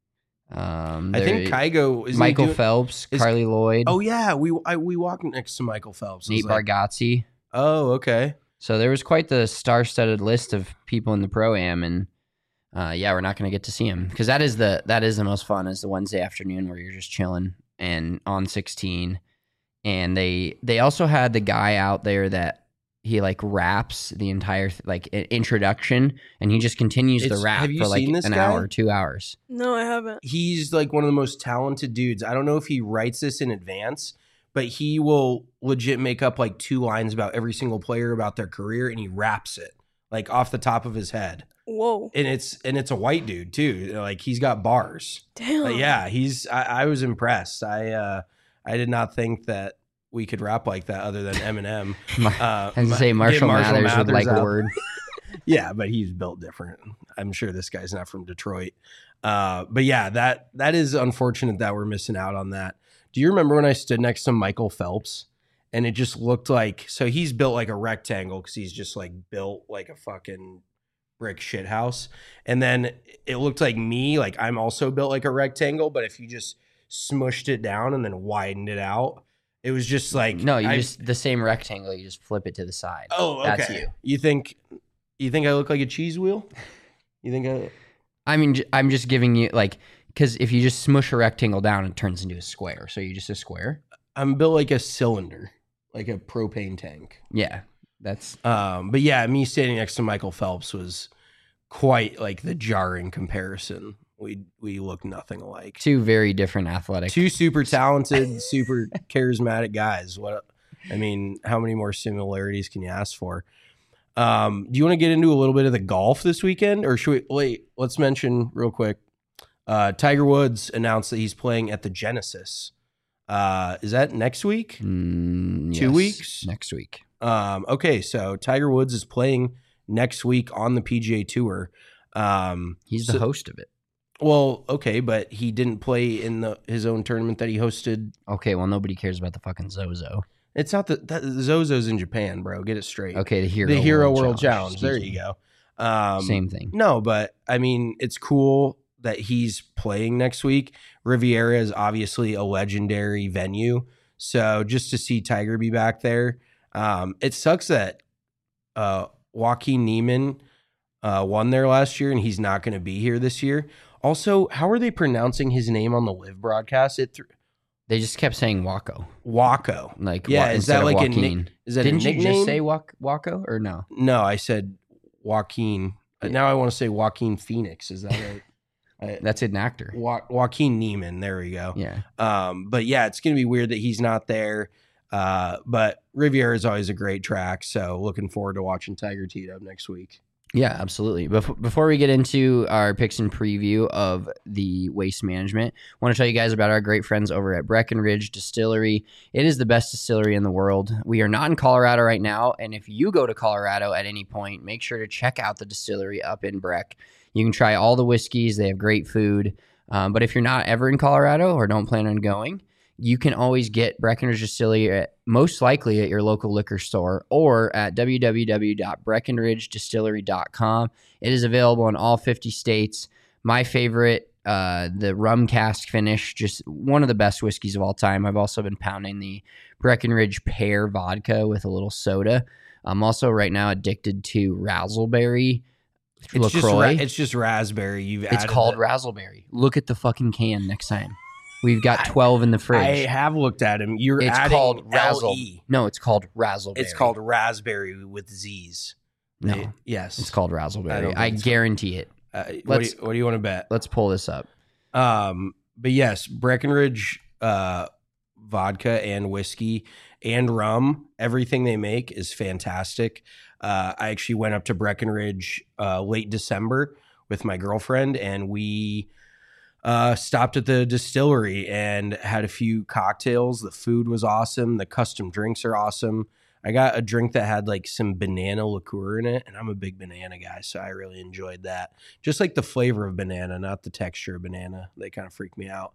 Um, I think Kygo is Michael doing, Phelps, is, Carly Lloyd. Oh yeah, we I, we walked next to Michael Phelps. Nate like, Bargatze. Oh, okay. So there was quite the star-studded list of people in the Pro-Am, and uh, yeah, we're not going to get to see him because that is the that is the most fun is the Wednesday afternoon where you're just chilling and on sixteen. And they they also had the guy out there that he like raps the entire like introduction, and he just continues It's, the rap have you for like seen this an guy? hour, two hours. No, I haven't. He's like one of the most talented dudes. I don't know if he writes this in advance, but he will legit make up like two lines about every single player about their career, and he raps it like off the top of his head. Whoa! And it's and it's a white dude too. Like he's got bars. Damn. Like, yeah, he's. I, I was impressed. I uh, I did not think that we could rap like that other than Eminem. Uh, I was to say Marshall, Marshall Mathers, Mathers would like out. a word. Yeah, but he's built different. I'm sure this guy's not from Detroit. Uh, but yeah, that that is unfortunate that we're missing out on that. Do you remember when I stood next to Michael Phelps and it just looked like, so he's built like a rectangle because he's just like built like a fucking brick shit house. And then it looked like me, like I'm also built like a rectangle, but if you just smushed it down and then widened it out, it was just like no, you I, just the same rectangle. You just flip it to the side. Oh, okay. That's you. You think you think I look like a cheese wheel? You think I? I mean, I'm just giving you like because if you just smush a rectangle down, it turns into a square. So you're just a square. I'm built like a cylinder, like a propane tank. Yeah, that's. Um, but yeah, me standing next to Michael Phelps was quite like the jarring comparison. We we look nothing alike. Two very different athletic. Two super talented, super charismatic guys. What I mean, how many more similarities can you ask for? Um, do you want to get into a little bit of the golf this weekend, or should we wait? Let's mention real quick. Uh, Tiger Woods announced that he's playing at the Genesis. Uh, is that next week? Mm, Two yes, weeks next week. Um, okay, so Tiger Woods is playing next week on the P G A Tour. Um, he's so, the host of it. Well, okay, but he didn't play in the his own tournament that he hosted. Okay, well, nobody cares about the fucking Zozo. It's not the that, Zozo's in Japan, bro. Get it straight. Okay, the Hero the Hero World, World Challenge. Challenge. There you go. Um, Same thing. No, but I mean, it's cool that he's playing next week. Riviera is obviously a legendary venue, so just to see Tiger be back there, um, it sucks that uh, Joaquin Niemann uh, won there last year, and he's not going to be here this year. Also, how are they pronouncing his name on the live broadcast? It th- they just kept saying Waco. Waco. Like yeah, wa- is that like Joaquin. a nick- is that Didn't a nickname? you just say Wac- Waco or no? No, I said Joaquin. Yeah. Now I want to say Joaquin Phoenix. Is that right? I, That's an actor. jo- Joaquin Niemann. There we go. Yeah. Um, but yeah, it's gonna be weird that he's not there. Uh, but Riviera is always a great track, so looking forward to watching Tiger teed up next week. Yeah, absolutely. Bef- before we get into our picks and preview of the Waste Management, I want to tell you guys about our great friends over at Breckenridge Distillery. It is the best distillery in the world. We are not in Colorado right now, and if you go to Colorado at any point, make sure to check out the distillery up in Breck. You can try all the whiskeys. They have great food. Um, but if you're not ever in Colorado or don't plan on going, you can always get Breckenridge Distillery at, most likely at your local liquor store or at w w w dot breckenridge distillery dot com. It is available in all fifty states. My favorite, uh, the rum cask finish, just one of the best whiskeys of all time. I've also been pounding the Breckenridge pear vodka with a little soda. I'm also right now addicted to Razzleberry It's LaCroix. just, ra- it's just raspberry. You've It's added called the- Razzleberry. Look at the fucking can next time. We've got twelve in the fridge. I have looked at him. You're it's adding called Razzle. L E. No, it's called Razzleberry. It's called raspberry with Z's. No. They- yes. It's called I Razzleberry. don't I, think so. guarantee it. Uh, what, do Let's- you, what do you want to bet? Let's pull this up. Um, but yes, Breckenridge uh, vodka and whiskey and rum, everything they make is fantastic. Uh, I actually went up to Breckenridge uh, late December with my girlfriend, and we uh, stopped at the distillery and had a few cocktails. The food was awesome. The custom drinks are awesome. I got a drink that had like some banana liqueur in it, and I'm a big banana guy, so I really enjoyed that. Just like the flavor of banana, not the texture of banana. They kind of freak me out.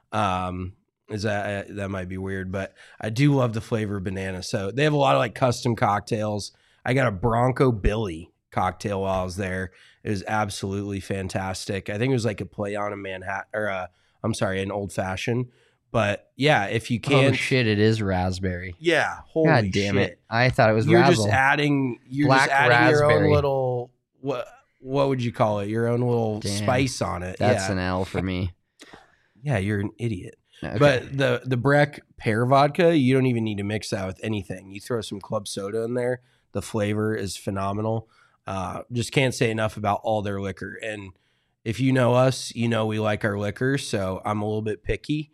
Um, is that that might be weird, but I do love the flavor of banana. So they have a lot of like custom cocktails. I got a Bronco Billy cocktail while I was there. It was absolutely fantastic. I think it was like a play on a Manhattan, or a, I'm sorry, an old fashioned. But yeah, if you Oh can, shit! It is raspberry. yeah, holy God damn shit. it! I thought it was You're Razzle. just adding, you're Black just adding your own raspberry. little what? What would you call it? Your own little Damn. spice on it. That's yeah. an L for me. yeah, you're an idiot. Okay. But the the Breck pear vodka, you don't even need to mix that with anything. You throw some club soda in there. The flavor is phenomenal. Uh, just can't say enough about all their liquor. And if you know us, you know we like our liquor. So I'm a little bit picky.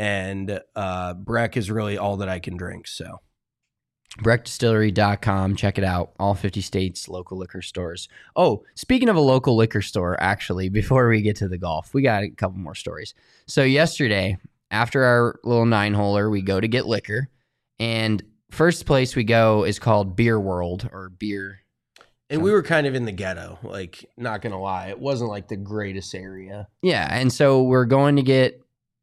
And uh, Breck is really all that I can drink. So breck distillery dot com. Check it out. All fifty states, local liquor stores. Oh, speaking of a local liquor store, actually, before we get to the golf, we got a couple more stories. So yesterday, after our little nine-holer, we go to get liquor. And first place we go is called Beer World or Beer. And we were kind of in the ghetto, like, not going to lie. It wasn't like the greatest area. Yeah, and so we're going to get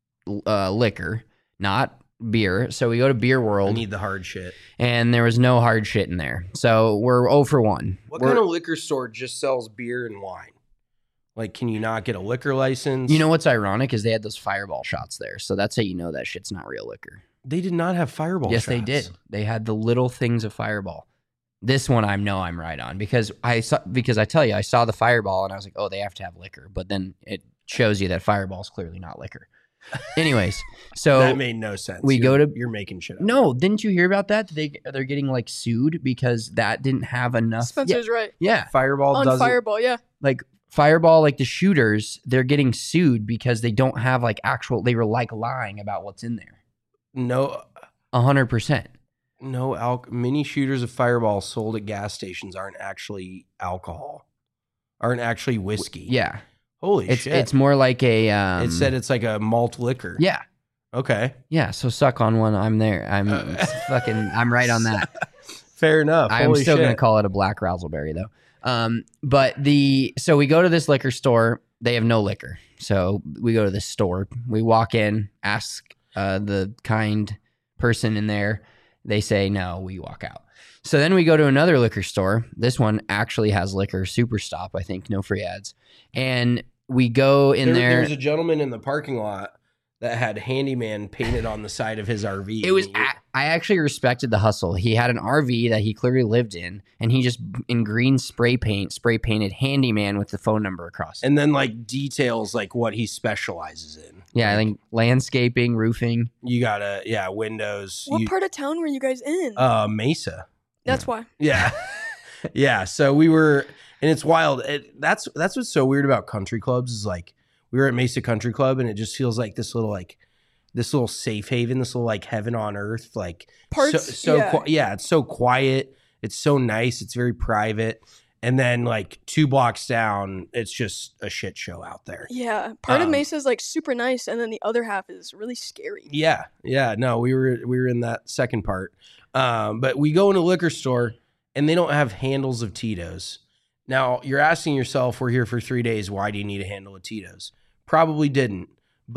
uh, liquor, not beer. So we go to Beer I World, need the hard shit. and there was no hard shit in there. So we're oh for one. What We're- kind of liquor store just sells beer and wine? Like, can you not get a liquor license? You know what's ironic is they had those Fireball shots there. So that's how you know that shit's not real liquor. They did not have Fireball yes, shots. they did. They had the little things of Fireball. This one I know I'm right on because I saw because I tell you I saw the Fireball and I was like, oh, they have to have liquor. But then it shows you that Fireball is clearly not liquor. Anyways, so that made no sense. we You're- go to- You're making shit up. no, didn't you hear about that? They they're getting like sued because that didn't have enough. Spencer's right. Yeah, yeah, Fireball On doesn't. Fireball, yeah. like Fireball, like the shooters, they're getting sued because they don't have like actual. They were like lying about what's in there. No, A hundred percent. no. Al- mini shooters of Fireball sold at gas stations aren't actually alcohol. Aren't actually whiskey. Yeah, Holy it's shit. it's more like a. Um, it said it's like a malt liquor. yeah. Okay. Yeah, so suck on one. I'm there. I'm fucking. I'm right on that. Fair enough. I'm Holy still shit. gonna call it a black razzleberry though. Um, but the so we go to this liquor store. They have no liquor, so we go to this store. We walk in, ask uh, the kind person in there. They say no. We walk out. So then we go to another liquor store. This one actually has liquor. Super Stop, I think. No free ads. And we go in there, there. there was a gentleman in the parking lot that had handyman painted on the side of his R V. It was. And he- a- I actually respected the hustle. He had an R V that he clearly lived in, and he just in green spray paint spray painted handyman with the phone number across. it. and then like details like what he specializes in. Yeah, I Like, think landscaping, roofing. you gotta yeah windows. What you, part of town were you guys in? uh, Mesa. That's why. Yeah, yeah. So we were, and it's wild. It, that's that's what's so weird about country clubs is like we were at Mesa Country Club, and it just feels like this little like this little safe haven, this little like heaven on earth. Like Parts, so, so yeah. qui- yeah, it's so quiet. It's so nice. It's very private. And then like two blocks down, it's just a shit show out there. Yeah. Part of Um, Mesa is like super nice, and then the other half is really scary. Yeah, yeah. No, we were we were in that second part. Um, but we go in a liquor store and they don't have handles of Tito's. Now you're asking yourself, we're here for three days. Why do you need a handle of Tito's? Probably didn't. But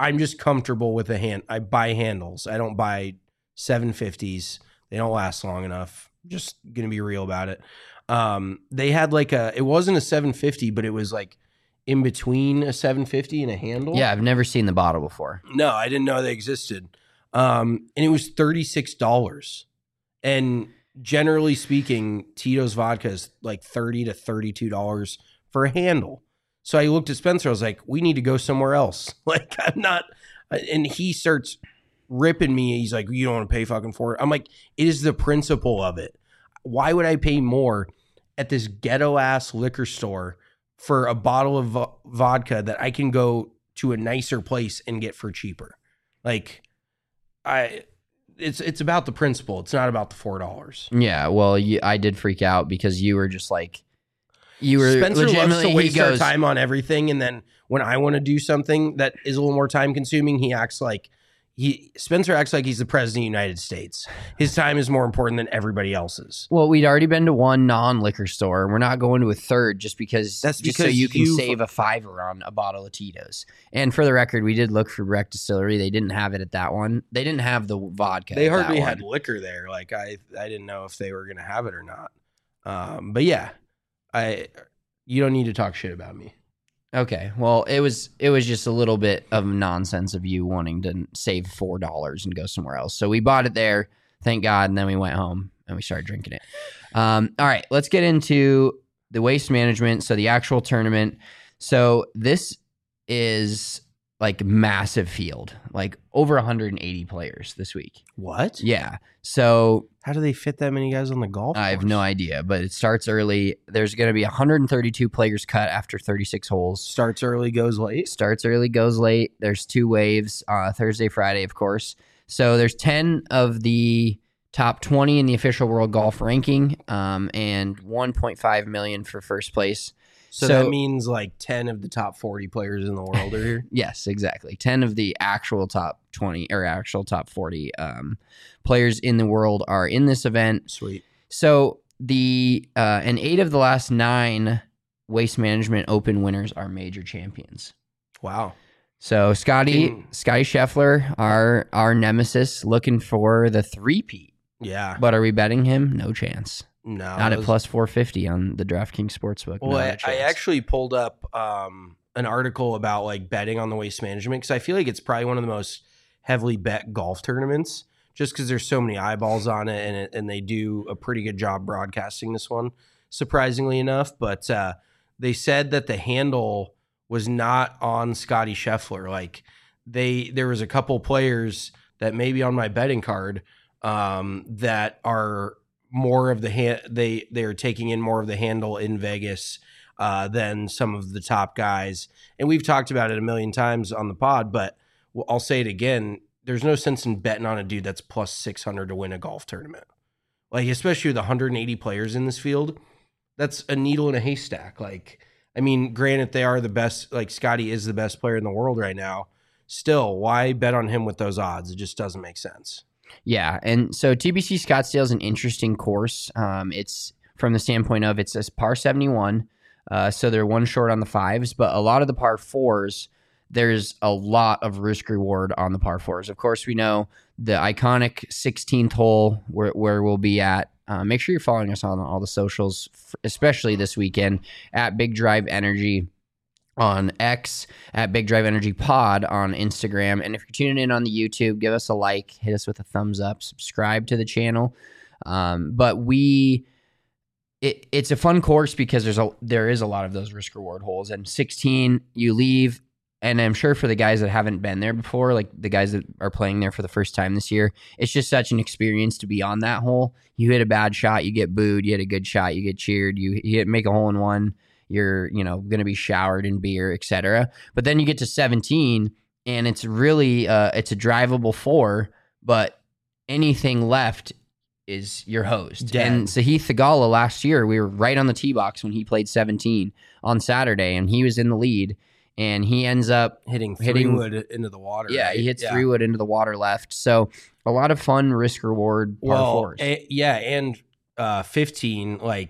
I'm just comfortable with the hand. I buy handles. I don't buy seven fifties. They don't last long enough. Just gonna be real about it. Um, they had like a. It wasn't a seven fifty, but it was like in between a seven fifty and a handle. Yeah, I've never seen the bottle before. No, I didn't know they existed. Um, and it was thirty-six dollars. And generally speaking, Tito's vodka is like thirty to thirty-two dollars for a handle. So I looked at Spencer. I was like, we need to go somewhere else. Like, I'm not. And he starts ripping me. He's like, you don't want to pay fucking for it. I'm like, it is the principle of it. Why would I pay more at this ghetto ass liquor store for a bottle of vo- vodka that I can go to a nicer place and get for cheaper? Like, I, it's it's about the principle. It's not about the four dollars. Yeah, well, you, I did freak out because you were just like, you were Spencer loves legitimately. to waste he goes, our time on everything, and then when I want to do something that is a little more time consuming, he acts like he. Spencer acts like he's the president of the United States. His time is more important than everybody else's. Well, we'd already been to one non-liquor store, and we're not going to a third just because That's just so because you can you've- save a fiver on a bottle of Tito's. And for the record, we did look for Breck Distillery. They didn't have it at that one. They didn't have the vodka. They at that hardly one. had liquor there. Like I, I didn't know if they were going to have it or not. Um, but yeah, I. You don't need to talk shit about me. Okay, well, it was it was just a little bit of nonsense of you wanting to save four dollars and go somewhere else. So we bought it there, thank God, and then we went home and we started drinking it. Um, all right, let's get into the waste management. So the actual tournament. So this is like massive field, like over one hundred eighty players this week. What? Yeah. So how do they fit that many guys on the golf course? I have no idea, but it starts early. There's going to be one hundred thirty-two players cut after thirty-six holes. Starts early, goes late. Starts early, goes late. There's two waves, uh, Thursday, Friday, of course. So there's ten of the top twenty in the official world golf ranking, um, and one point five million for first place. So, So- that means like ten of the top forty players in the world are here. Yes, exactly. ten of the actual top twenty or actual top forty um, players in the world are in this event. Sweet. So the uh, and eight of the last nine Waste Management Open winners are major champions. Wow. So Scotty Can- Scotty Scheffler, our our nemesis, looking for the three-peat. Yeah. But are we betting him? No chance. No. Not at those- plus four fifty on the DraftKings Sportsbook. Well, Not a I, I chance. actually pulled up um, an article about like betting on the waste management because I feel like it's probably one of the most heavily bet golf tournaments just because there's so many eyeballs on it and, it and they do a pretty good job broadcasting this one, surprisingly enough. But uh, they said that the handle was not on Scotty Scheffler. Like they, there was a couple players that maybe on my betting card um, that are more of the hand they they're taking in more of the handle in Vegas uh, than some of the top guys. And we've talked about it a million times on the pod, but I'll say it again. There's no sense in betting on a dude that's plus six hundred to win a golf tournament. Like, especially with one hundred eighty players in this field, that's a needle in a haystack. Like, I mean, granted, they are the best, like Scotty is the best player in the world right now. Still, why bet on him with those odds? It just doesn't make sense. Yeah, and so T B C Scottsdale is an interesting course. Um, it's from the standpoint of it's a par seventy-one, uh, so they're one short on the fives, but a lot of the par fours, there's a lot of risk reward on the par fours. Of course, we know the iconic sixteenth hole where, where we'll be at. Uh, make sure you're following us on all the socials, especially this weekend at Big Drive Energy on X, at Big Drive Energy Pod on Instagram. And if you're tuning in on the YouTube, give us a like, hit us with a thumbs up, subscribe to the channel. Um, but we, it, it's a fun course because there's a there is a lot of those risk reward holes. And sixteen, you leave, and I'm sure for the guys that haven't been there before, like the guys that are playing there for the first time this year, it's just such an experience to be on that hole. You hit a bad shot, you get booed. You hit a good shot, you get cheered. You, you hit, make a hole in one. You're, you know, going to be showered in beer, et cetera. But then you get to seventeen, and it's really, uh, it's a drivable four, but anything left is your host. Dead. And Sahith Theegala last year, we were right on the tee box when he played seventeen on Saturday, and he was in the lead, and he ends up Hitting three hitting wood into the water. Yeah, right? he hits Yeah. three wood into the water left. So a lot of fun risk reward par Well, fours. a- yeah, and uh, fifteen, like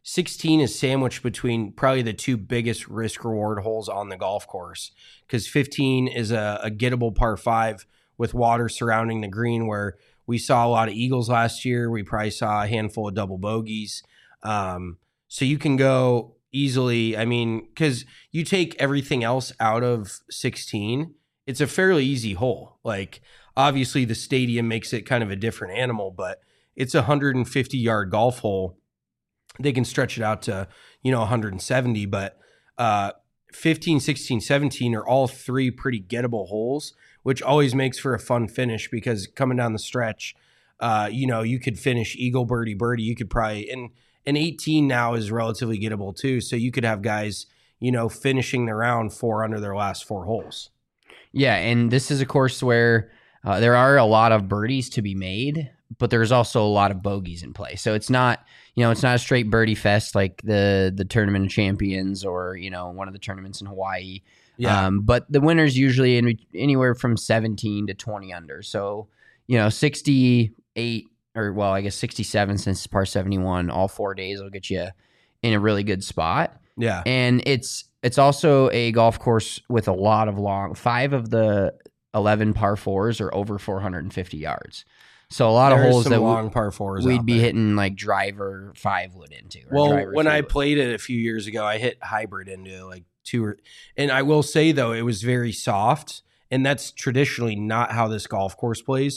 sixteen is sandwiched between probably the two biggest risk reward holes on the golf course, because fifteen is a, a gettable par five with water surrounding the green, where we saw a lot of eagles last year. We probably saw a handful of double bogeys. Um, so you can go easily. I mean, because you take everything else out of sixteen, it's a fairly easy hole. Like, obviously the stadium makes it kind of a different animal, but it's a one hundred fifty yard golf hole. They can stretch it out to, you know, one hundred seventy, but uh, fifteen, sixteen, seventeen are all three pretty gettable holes, which always makes for a fun finish, because coming down the stretch, uh, you know, you could finish eagle, birdie, birdie. You could probably, and, and eighteen now is relatively gettable too. So you could have guys, you know, finishing the round four under their last four holes. Yeah, and this is a course where uh, there are a lot of birdies to be made, but there's also a lot of bogeys in play. So it's not, you know, it's not a straight birdie fest like the the Tournament of Champions or, you know, one of the tournaments in Hawaii. Yeah. Um, but the winner's usually in anywhere from seventeen to twenty under. So, you know, sixty-eight or, well, I guess sixty-seven since it's par seventy-one, all four days will get you in a really good spot. Yeah. And it's it's also a golf course with a lot of long, five of the eleven par fours are over four hundred fifty yards. So a lot There's of holes some that long we, par fours we'd out be there. hitting like driver five wood into. Or Well, driver when three I wood. played it a few years ago, I hit hybrid into like two or, and I will say though, it was very soft, and that's traditionally not how this golf course plays.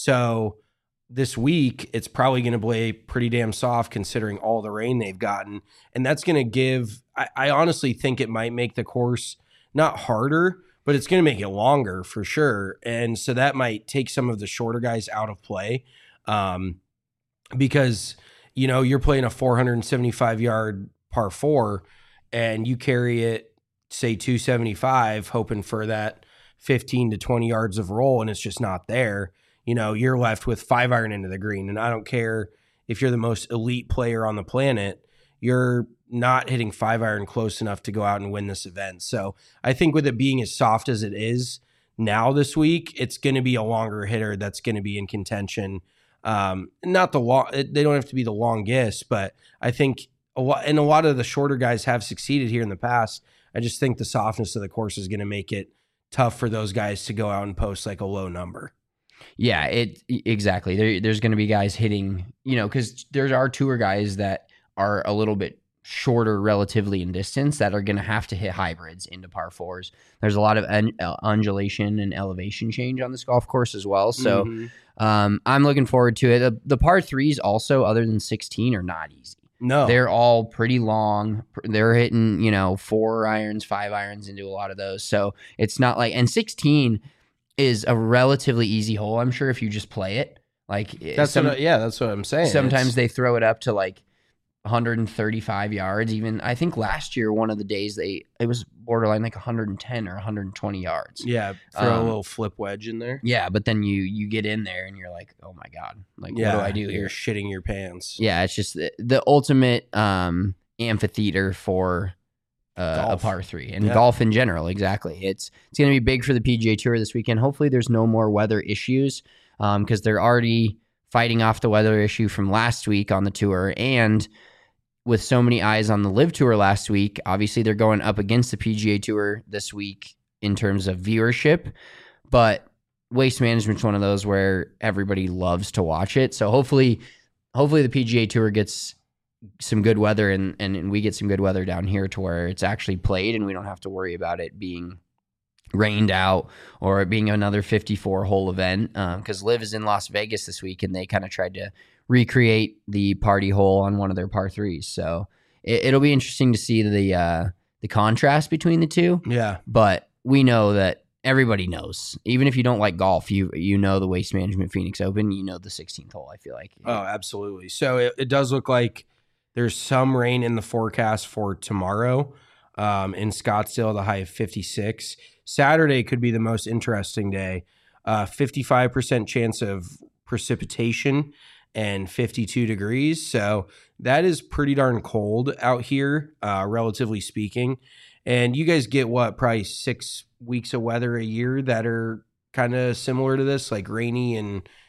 So this week, it's probably going to play pretty damn soft considering all the rain they've gotten. And that's going to give, I, I honestly think it might make the course not harder, but it's going to make it longer for sure. And so that might take some of the shorter guys out of play. Um, because, you know, you're playing a four hundred seventy-five yard par four and you carry it, say two seventy-five, hoping for that fifteen to twenty yards of roll, and it's just not there. You know, you're left with five iron into the green. And I don't care if you're the most elite player on the planet, you're not hitting five iron close enough to go out and win this event. So I think with it being as soft as it is now this week, it's going to be a longer hitter that's going to be in contention. Um, not the long, they don't have to be the longest, but I think a lot, and a lot of the shorter guys have succeeded here in the past. I just think the softness of the course is going to make it tough for those guys to go out and post like a low number. Yeah, it exactly. There, there's going to be guys hitting, you know, because there are tour guys that are a little bit shorter relatively in distance that are going to have to hit hybrids into par fours. There's a lot of un- undulation and elevation change on this golf course as well. So mm-hmm. um, I'm looking forward to it. The, the par threes also, other than sixteen, are not easy. No, they're all pretty long. They're hitting, you know, four irons, five irons into a lot of those. So it's not like, and sixteen is a relatively easy hole. I'm sure if you just play it, like that's some, what I, yeah, that's what I'm saying. Sometimes it's, they throw it up to like one hundred thirty-five yards. Even I think last year, one of the days they it was borderline like one hundred ten or one hundred twenty yards. Yeah, throw um, a little flip wedge in there. Yeah, but then you you get in there and you're like, oh my god, like yeah, what do I do here? You're shitting your pants. Yeah, it's just the, the ultimate um, amphitheater for uh, a par three and yeah. golf in general. Exactly, it's it's going to be big for the P G A Tour this weekend. Hopefully, there's no more weather issues because um, they're already fighting off the weather issue from last week on the tour, and with so many eyes on the Live Tour last week, obviously they're going up against the P G A Tour this week in terms of viewership, but Waste Management's one of those where everybody loves to watch it. So hopefully, hopefully the P G A Tour gets some good weather and, and, and we get some good weather down here to where it's actually played and we don't have to worry about it being rained out or it being another fifty-four hole event. Because um, Live is in Las Vegas this week and they kind of tried to recreate the party hole on one of their par threes. So it, it'll be interesting to see the uh, the contrast between the two. Yeah. But we know that everybody knows. Even if you don't like golf, you you know the Waste Management Phoenix Open, you know the sixteenth hole, I feel like. Oh, absolutely. So it, it does look like there's some rain in the forecast for tomorrow um, in Scottsdale, the high of fifty-six. Saturday could be the most interesting day. Uh, fifty-five percent chance of precipitation and fifty-two degrees. So that is pretty darn cold out here, uh, relatively speaking. And you guys get what, probably six weeks of weather a year that are kind of similar to this, like rainy and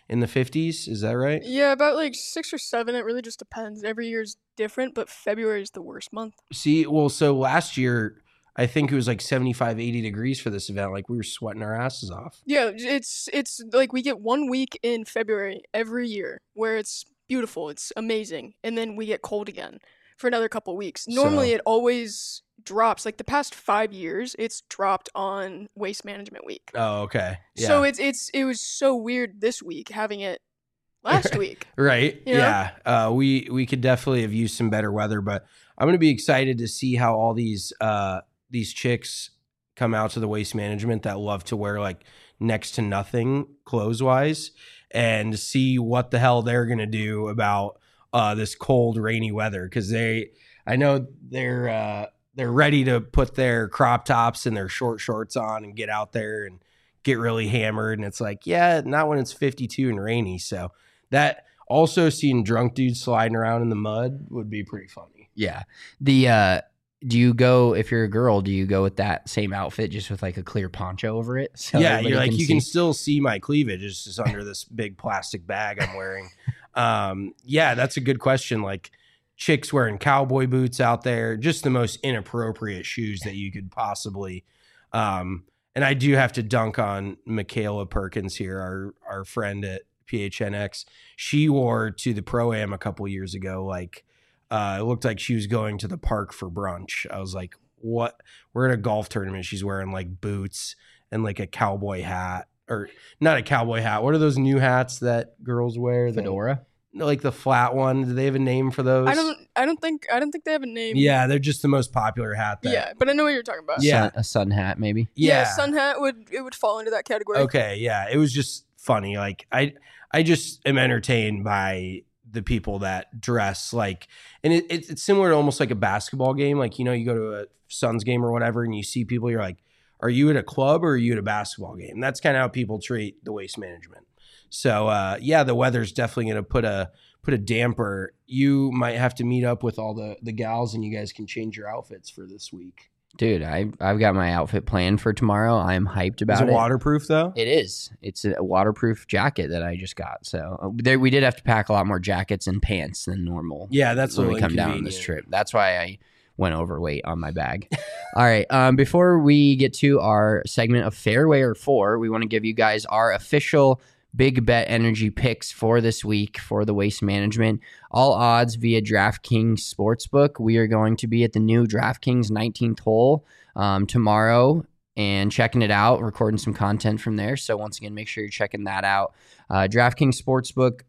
in the fifties. Is that right? Yeah, about like six or seven. It really just depends. Every year's different, but February is the worst month. See, well, so last year, I think it was like seventy-five, eighty degrees for this event. Like we were sweating our asses off. Yeah, it's it's like we get one week in February every year where it's beautiful, it's amazing, and then we get cold again for another couple weeks. Normally, So- it always drops. Like the past five years, it's dropped on Waste Management Week. Oh, okay. Yeah. So it's it's it was so weird this week having it last week. Right. You know? Yeah. Uh, we we could definitely have used some better weather, but I'm going to be excited to see how all these uh, these chicks come out to the Waste Management that love to wear like next to nothing clothes wise, and see what the hell they're going to do about uh, this cold, rainy weather. Because they, I know they're uh, they're ready to put their crop tops and their short shorts on and get out there and get really hammered. And it's like, yeah, not when it's fifty-two and rainy. So that also seeing drunk dudes sliding around in the mud would be pretty funny. Yeah. The uh do you go, if you're a girl, do you go with that same outfit just with like a clear poncho over it? So yeah, everybody you're like, can you see? can still see my cleavage. It's just under this big plastic bag I'm wearing. um, yeah, that's a good question. Like chicks wearing cowboy boots out there, just the most inappropriate shoes that you could possibly. Um, and I do have to dunk on Michaela Perkins here, our our friend at P H N X. She wore to the Pro-Am a couple years ago, like, Uh, it looked like she was going to the park for brunch. I was like, what? We're at a golf tournament. She's wearing like boots and like a cowboy hat, or not a cowboy hat. What are those new hats that girls wear? Fedora? The, like the flat one. Do they have a name for those? I don't I don't think I don't think they have a name. Yeah, they're just the most popular hat. That, Yeah, but I know what you're talking about. Yeah. Sun, a sun hat, maybe. Yeah, Yeah. sun hat would it would fall into that category. Okay. Yeah. It was just funny. Like I, I just am entertained by the people that dress like, and it, it, it's similar to almost like a basketball game. Like, you know, you go to a Suns game or whatever, and you see people, you're like, are you at a club or are you at a basketball game? That's kind of how people treat the Waste Management. So uh, yeah, the weather's definitely going to put a, put a damper. You might have to meet up with all the, the gals and you guys can change your outfits for this week. Dude, I, I've got my outfit planned for tomorrow. I'm hyped about Is it it. waterproof though? It is. It's a waterproof jacket that I just got. So uh, there, we did have to pack a lot more jackets and pants than normal. Yeah, that's a when we little come down on this inconvenient. trip. That's why I went overweight on my bag. All right. Um, before we get to our segment of Fairway or Four, we want to give you guys our official Big Bet Energy picks for this week for the Waste Management. All odds via DraftKings Sportsbook. We are going to be at the new DraftKings nineteenth hole um, tomorrow and checking it out, recording some content from there. So once again, make sure you're checking that out. Uh, DraftKings Sportsbook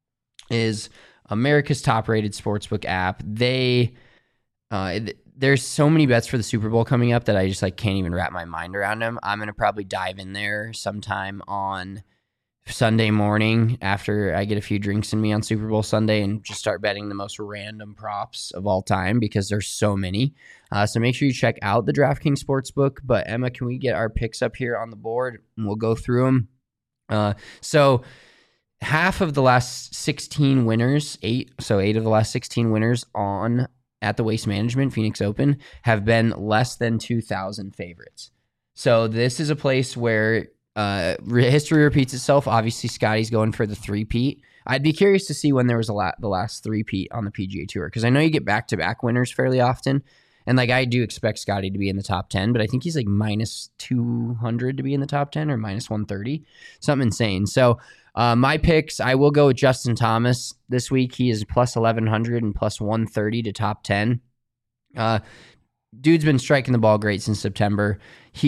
is America's top-rated sportsbook app. They uh, th- there's so many bets for the Super Bowl coming up that I just like can't even wrap my mind around them. I'm gonna probably dive in there sometime on Sunday morning after I get a few drinks in me on Super Bowl Sunday and just start betting the most random props of all time because there's so many. Uh, so make sure you check out the DraftKings Sportsbook. But Emma, can we get our picks up here on the board and we'll go through them? Uh, so half of the last sixteen winners, eight, so eight of the last sixteen winners on at the Waste Management Phoenix Open have been less than two thousand favorites. So this is a place where Uh, re- history repeats itself. Obviously, Scotty's going for the three-peat. I'd be curious to see when there was a lot the last three-peat on the P G A Tour because I know you get back-to-back winners fairly often, and like I do expect Scotty to be in the top ten, but I think he's like minus two hundred to be in the top ten or minus one thirty, something insane. So uh, my picks, I will go with Justin Thomas this week. He is plus eleven hundred and plus one thirty to top ten. Uh, dude's been striking the ball great since September.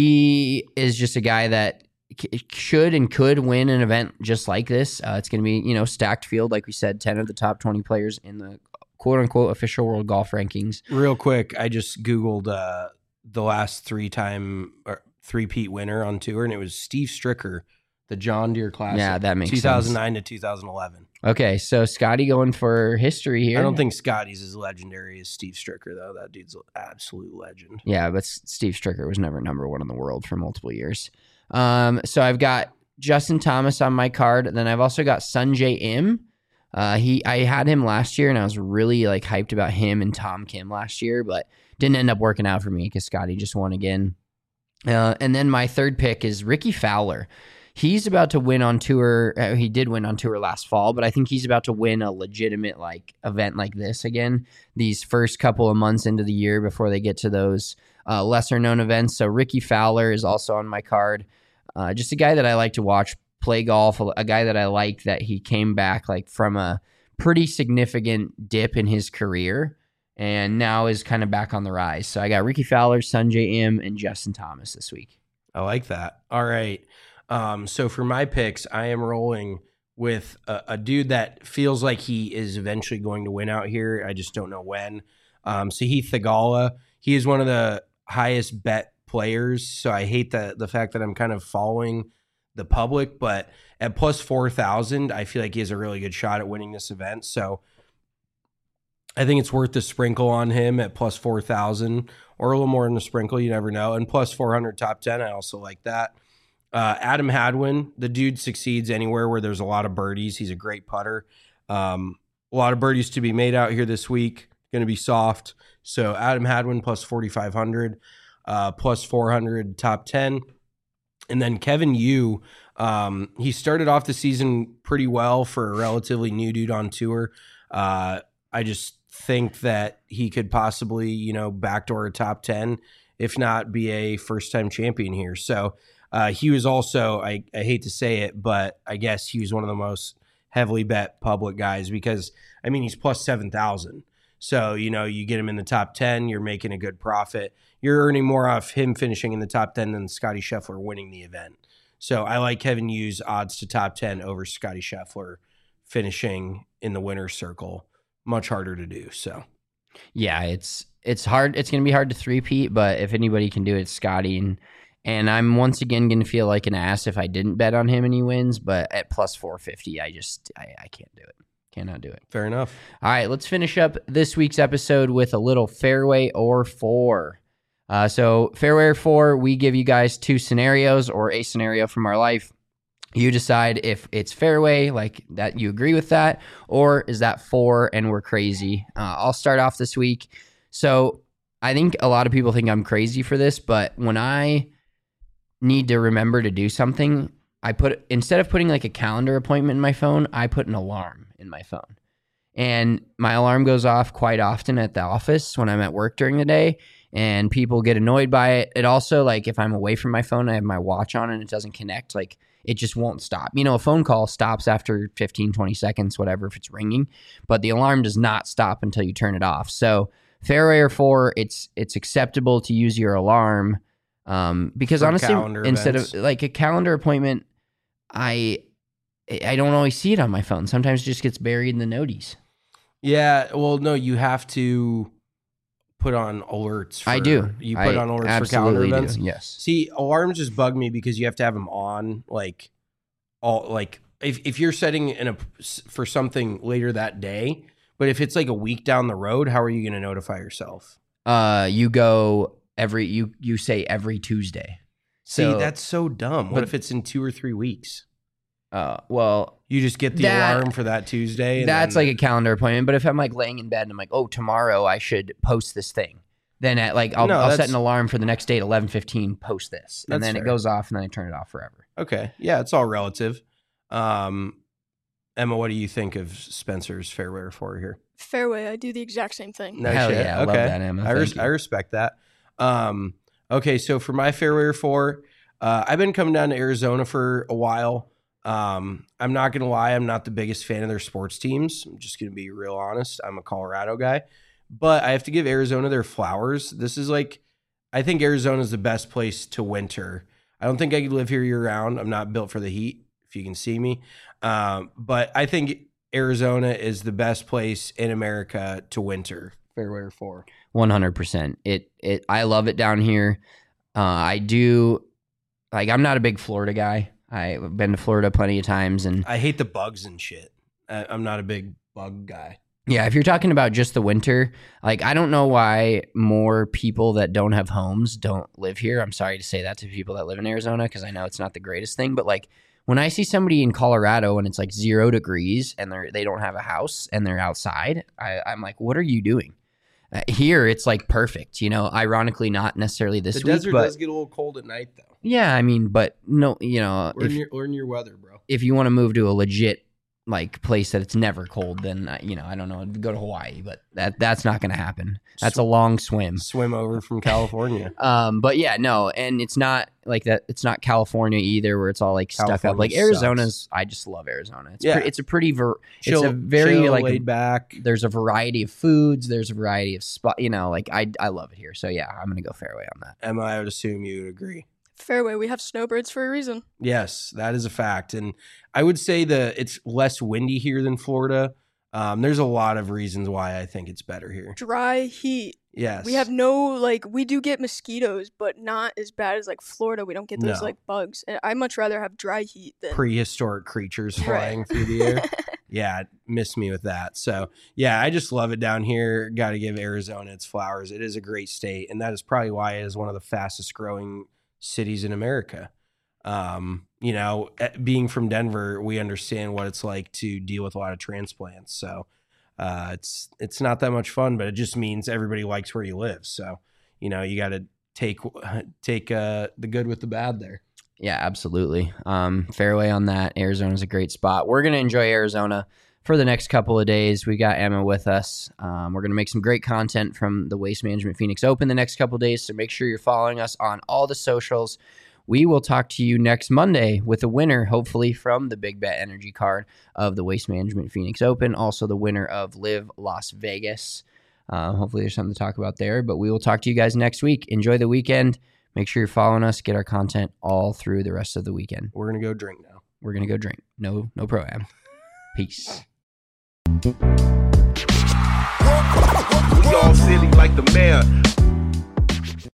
He is just a guy that should and could win an event just like this. Uh, it's going to be, you know, stacked field. Like we said, ten of the top twenty players in the quote unquote official world golf rankings. Real quick, I just Googled uh, the last three time or three-peat winner on tour, and it was Steve Stricker, the John Deere Classic. Yeah, that makes two thousand nine to two thousand eleven. Okay, so Scotty going for history here. I don't think Scotty's as legendary as Steve Stricker, though. That dude's an absolute legend. Yeah, but S- Steve Stricker was never number one in the world for multiple years. Um, so I've got Justin Thomas on my card. Then I've also got Sungjae Im. Uh, he, I had him last year, and I was really like hyped about him and Tom Kim last year, but didn't end up working out for me because Scotty just won again. Uh, and then my third pick is Ricky Fowler. he's about to win on tour. Uh, he did win on tour last fall, but I think he's about to win a legitimate like event like this again. These first couple of months into the year before they get to those uh, lesser known events. So Ricky Fowler is also on my card. Uh, just a guy that I like to watch play golf. A, a guy that I like that he came back like from a pretty significant dip in his career and now is kind of back on the rise. So I got Ricky Fowler, Sungjae Im, and Justin Thomas this week. I like that. All right. Um, so for my picks, I am rolling with a, a dude that feels like he is eventually going to win out here. I just don't know when. Um, Sahith Theegala, he is one of the highest bet players. So I hate the the fact that I'm kind of following the public, but at plus four thousand, I feel like he has a really good shot at winning this event. So I think it's worth the sprinkle on him at plus four thousand or a little more than a sprinkle. You never know. And plus four hundred top ten. I also like that. Uh, Adam Hadwin, the dude succeeds anywhere where there's a lot of birdies. He's a great putter. Um, a lot of birdies to be made out here this week. Going to be soft. So Adam Hadwin plus forty-five hundred, uh, plus four hundred top ten. And then Kevin Yu, um, he started off the season pretty well for a relatively new dude on tour. Uh, I just think that he could possibly, you know, backdoor a top ten, if not be a first-time champion here. So uh, he was also, I, I hate to say it, but I guess he was one of the most heavily bet public guys because, I mean, he's plus seven thousand. So, you know, you get him in the top ten, you're making a good profit. You're earning more off him finishing in the top ten than Scotty Scheffler winning the event. So I like Kevin Yu's odds to top ten over Scotty Scheffler finishing in the winner's circle. Much harder to do. So, yeah, it's it's hard. It's going to be hard to three-peat, but if anybody can do it, it's Scotty. And, and I'm once again going to feel like an ass if I didn't bet on him and he wins, but at plus four fifty, I just, I, I can't do it. Cannot do it. Fair enough. All right, let's finish up this week's episode with a little fairway or four. Uh, so fairway or four, we give you guys two scenarios or a scenario from our life. You decide if it's fairway, like that you agree with that, or is that four and we're crazy. Uh, I'll start off this week. So I think a lot of people think I'm crazy for this, but when I need to remember to do something, I put, instead of putting like a calendar appointment in my phone, I put an alarm in my phone. And my alarm goes off quite often at the office when I'm at work during the day, and people get annoyed by it. It also, like, if I'm away from my phone, I have my watch on and it doesn't connect, like, it just won't stop. You know, a phone call stops after fifteen, twenty seconds, whatever, if it's ringing, but the alarm does not stop until you turn it off. So fairway or four, it's it's acceptable to use your alarm um, because For honestly, instead events. of like a calendar appointment, I I don't always see it on my phone. Sometimes it just gets buried in the noties. Yeah, well, no, you have to put on alerts. For, I do. You put I on alerts for calendar absolutely events? do, yes. See, alarms just bug me because you have to have them on, like, all like if, if you're setting in a for something later that day, but if it's like a week down the road, how are you going to notify yourself? Uh, you go every you you say every Tuesday. See, So- that's so dumb. What but- if it's in two or three weeks? Uh, well, You just get the That- alarm for that Tuesday. And that's then, like a calendar appointment. But if I'm like laying in bed and I'm like, oh, tomorrow I should post this thing, then at like I'll, No, I'll set that's- an alarm for the next day at eleven fifteen. Post this, and That's then fair. it goes off, and then I turn it off forever. okay. Yeah, it's all relative. Um, Emma, what do you think of Spencer's fairway or four here? Fairway, I do the exact same thing. No Hell shit. yeah, I love that, Emma. I, res- Thank you. I respect that. Um, okay, so for my fairway or four, uh, I've been coming down to Arizona for a while. Um, I'm not going to lie. I'm not the biggest fan of their sports teams. I'm just going to be real honest. I'm a Colorado guy, but I have to give Arizona their flowers. This is like, I think Arizona is the best place to winter. I don't think I could live here year round. I'm not built for the heat, if you can see me. Um, but I think Arizona is the best place in America to winter. Fairway or four. One hundred percent. It it. I love it down here. Uh, I do. Like, I'm not a big Florida guy. I've been to Florida plenty of times, and I hate the bugs and shit. I, I'm not a big bug guy. yeah, if you're talking about just the winter, like, I don't know why more people that don't have homes don't live here. I'm sorry to say that to people that live in Arizona, because I know it's not the greatest thing, but like, when I see somebody in Colorado and it's like zero degrees and they're they don't have a house and they're outside, I, I'm like, what are you doing? Uh, here, it's like perfect. You know, ironically, not necessarily this The week, desert but does get a little cold at night, though. Yeah, I mean, but no, you know, Learn if, your, learn your weather, bro. if you want to move to a legit like place that it's never cold, then uh, you know, I don't know, go to Hawaii, but that that's not going to happen. That's Sw- a long swim. Swim over from California. um, but yeah, no, and it's not like that. It's not California either, where it's all like California stuck up. Like sucks. Arizona's, I just love Arizona. It's Yeah. pre- it's a pretty ver- Chill, it's a very chill, like laid back. There's a variety of foods. There's a variety of spot. You know, like I I love it here. So yeah, I'm gonna go fairway on that. Emma, I would assume you would agree. Fairway, we have snowbirds for a reason. Yes, that is a fact. And I would say that it's less windy here than Florida. Um, there's a lot of reasons why I think it's better here. Dry heat. Yes. We have no, like, we do get mosquitoes, but not as bad as, like, Florida. We don't get those, No. like, bugs. And I'd much rather have dry heat than... prehistoric creatures Right. flying through the air. Yeah, miss me with that. So, yeah, I just love it down here. Got to give Arizona its flowers. It is a great state, and that is probably why it is one of the fastest growing cities in America. Um, you know, eh, being from Denver, we understand what it's like to deal with a lot of transplants. So, uh, it's it's not that much fun, but it just means everybody likes where you live. So, you know, you got to take take uh, the good with the bad there. Yeah, absolutely. Um, fairway on that. Arizona's a great spot. We're going to enjoy Arizona for the next couple of days. We got Emma with us. Um, we're going to make some great content from the Waste Management Phoenix Open the next couple of days, so make sure you're following us on all the socials. We will talk to you next Monday with a winner, hopefully from the Big Bet Energy card of the Waste Management Phoenix Open, also the winner of Live Las Vegas. Uh, hopefully there's something to talk about there, but we will talk to you guys next week. Enjoy the weekend. Make sure you're following us. Get our content all through the rest of the weekend. We're going to go drink now. We're going to go drink. No, no pro-am. Peace. We all silly like the mayor.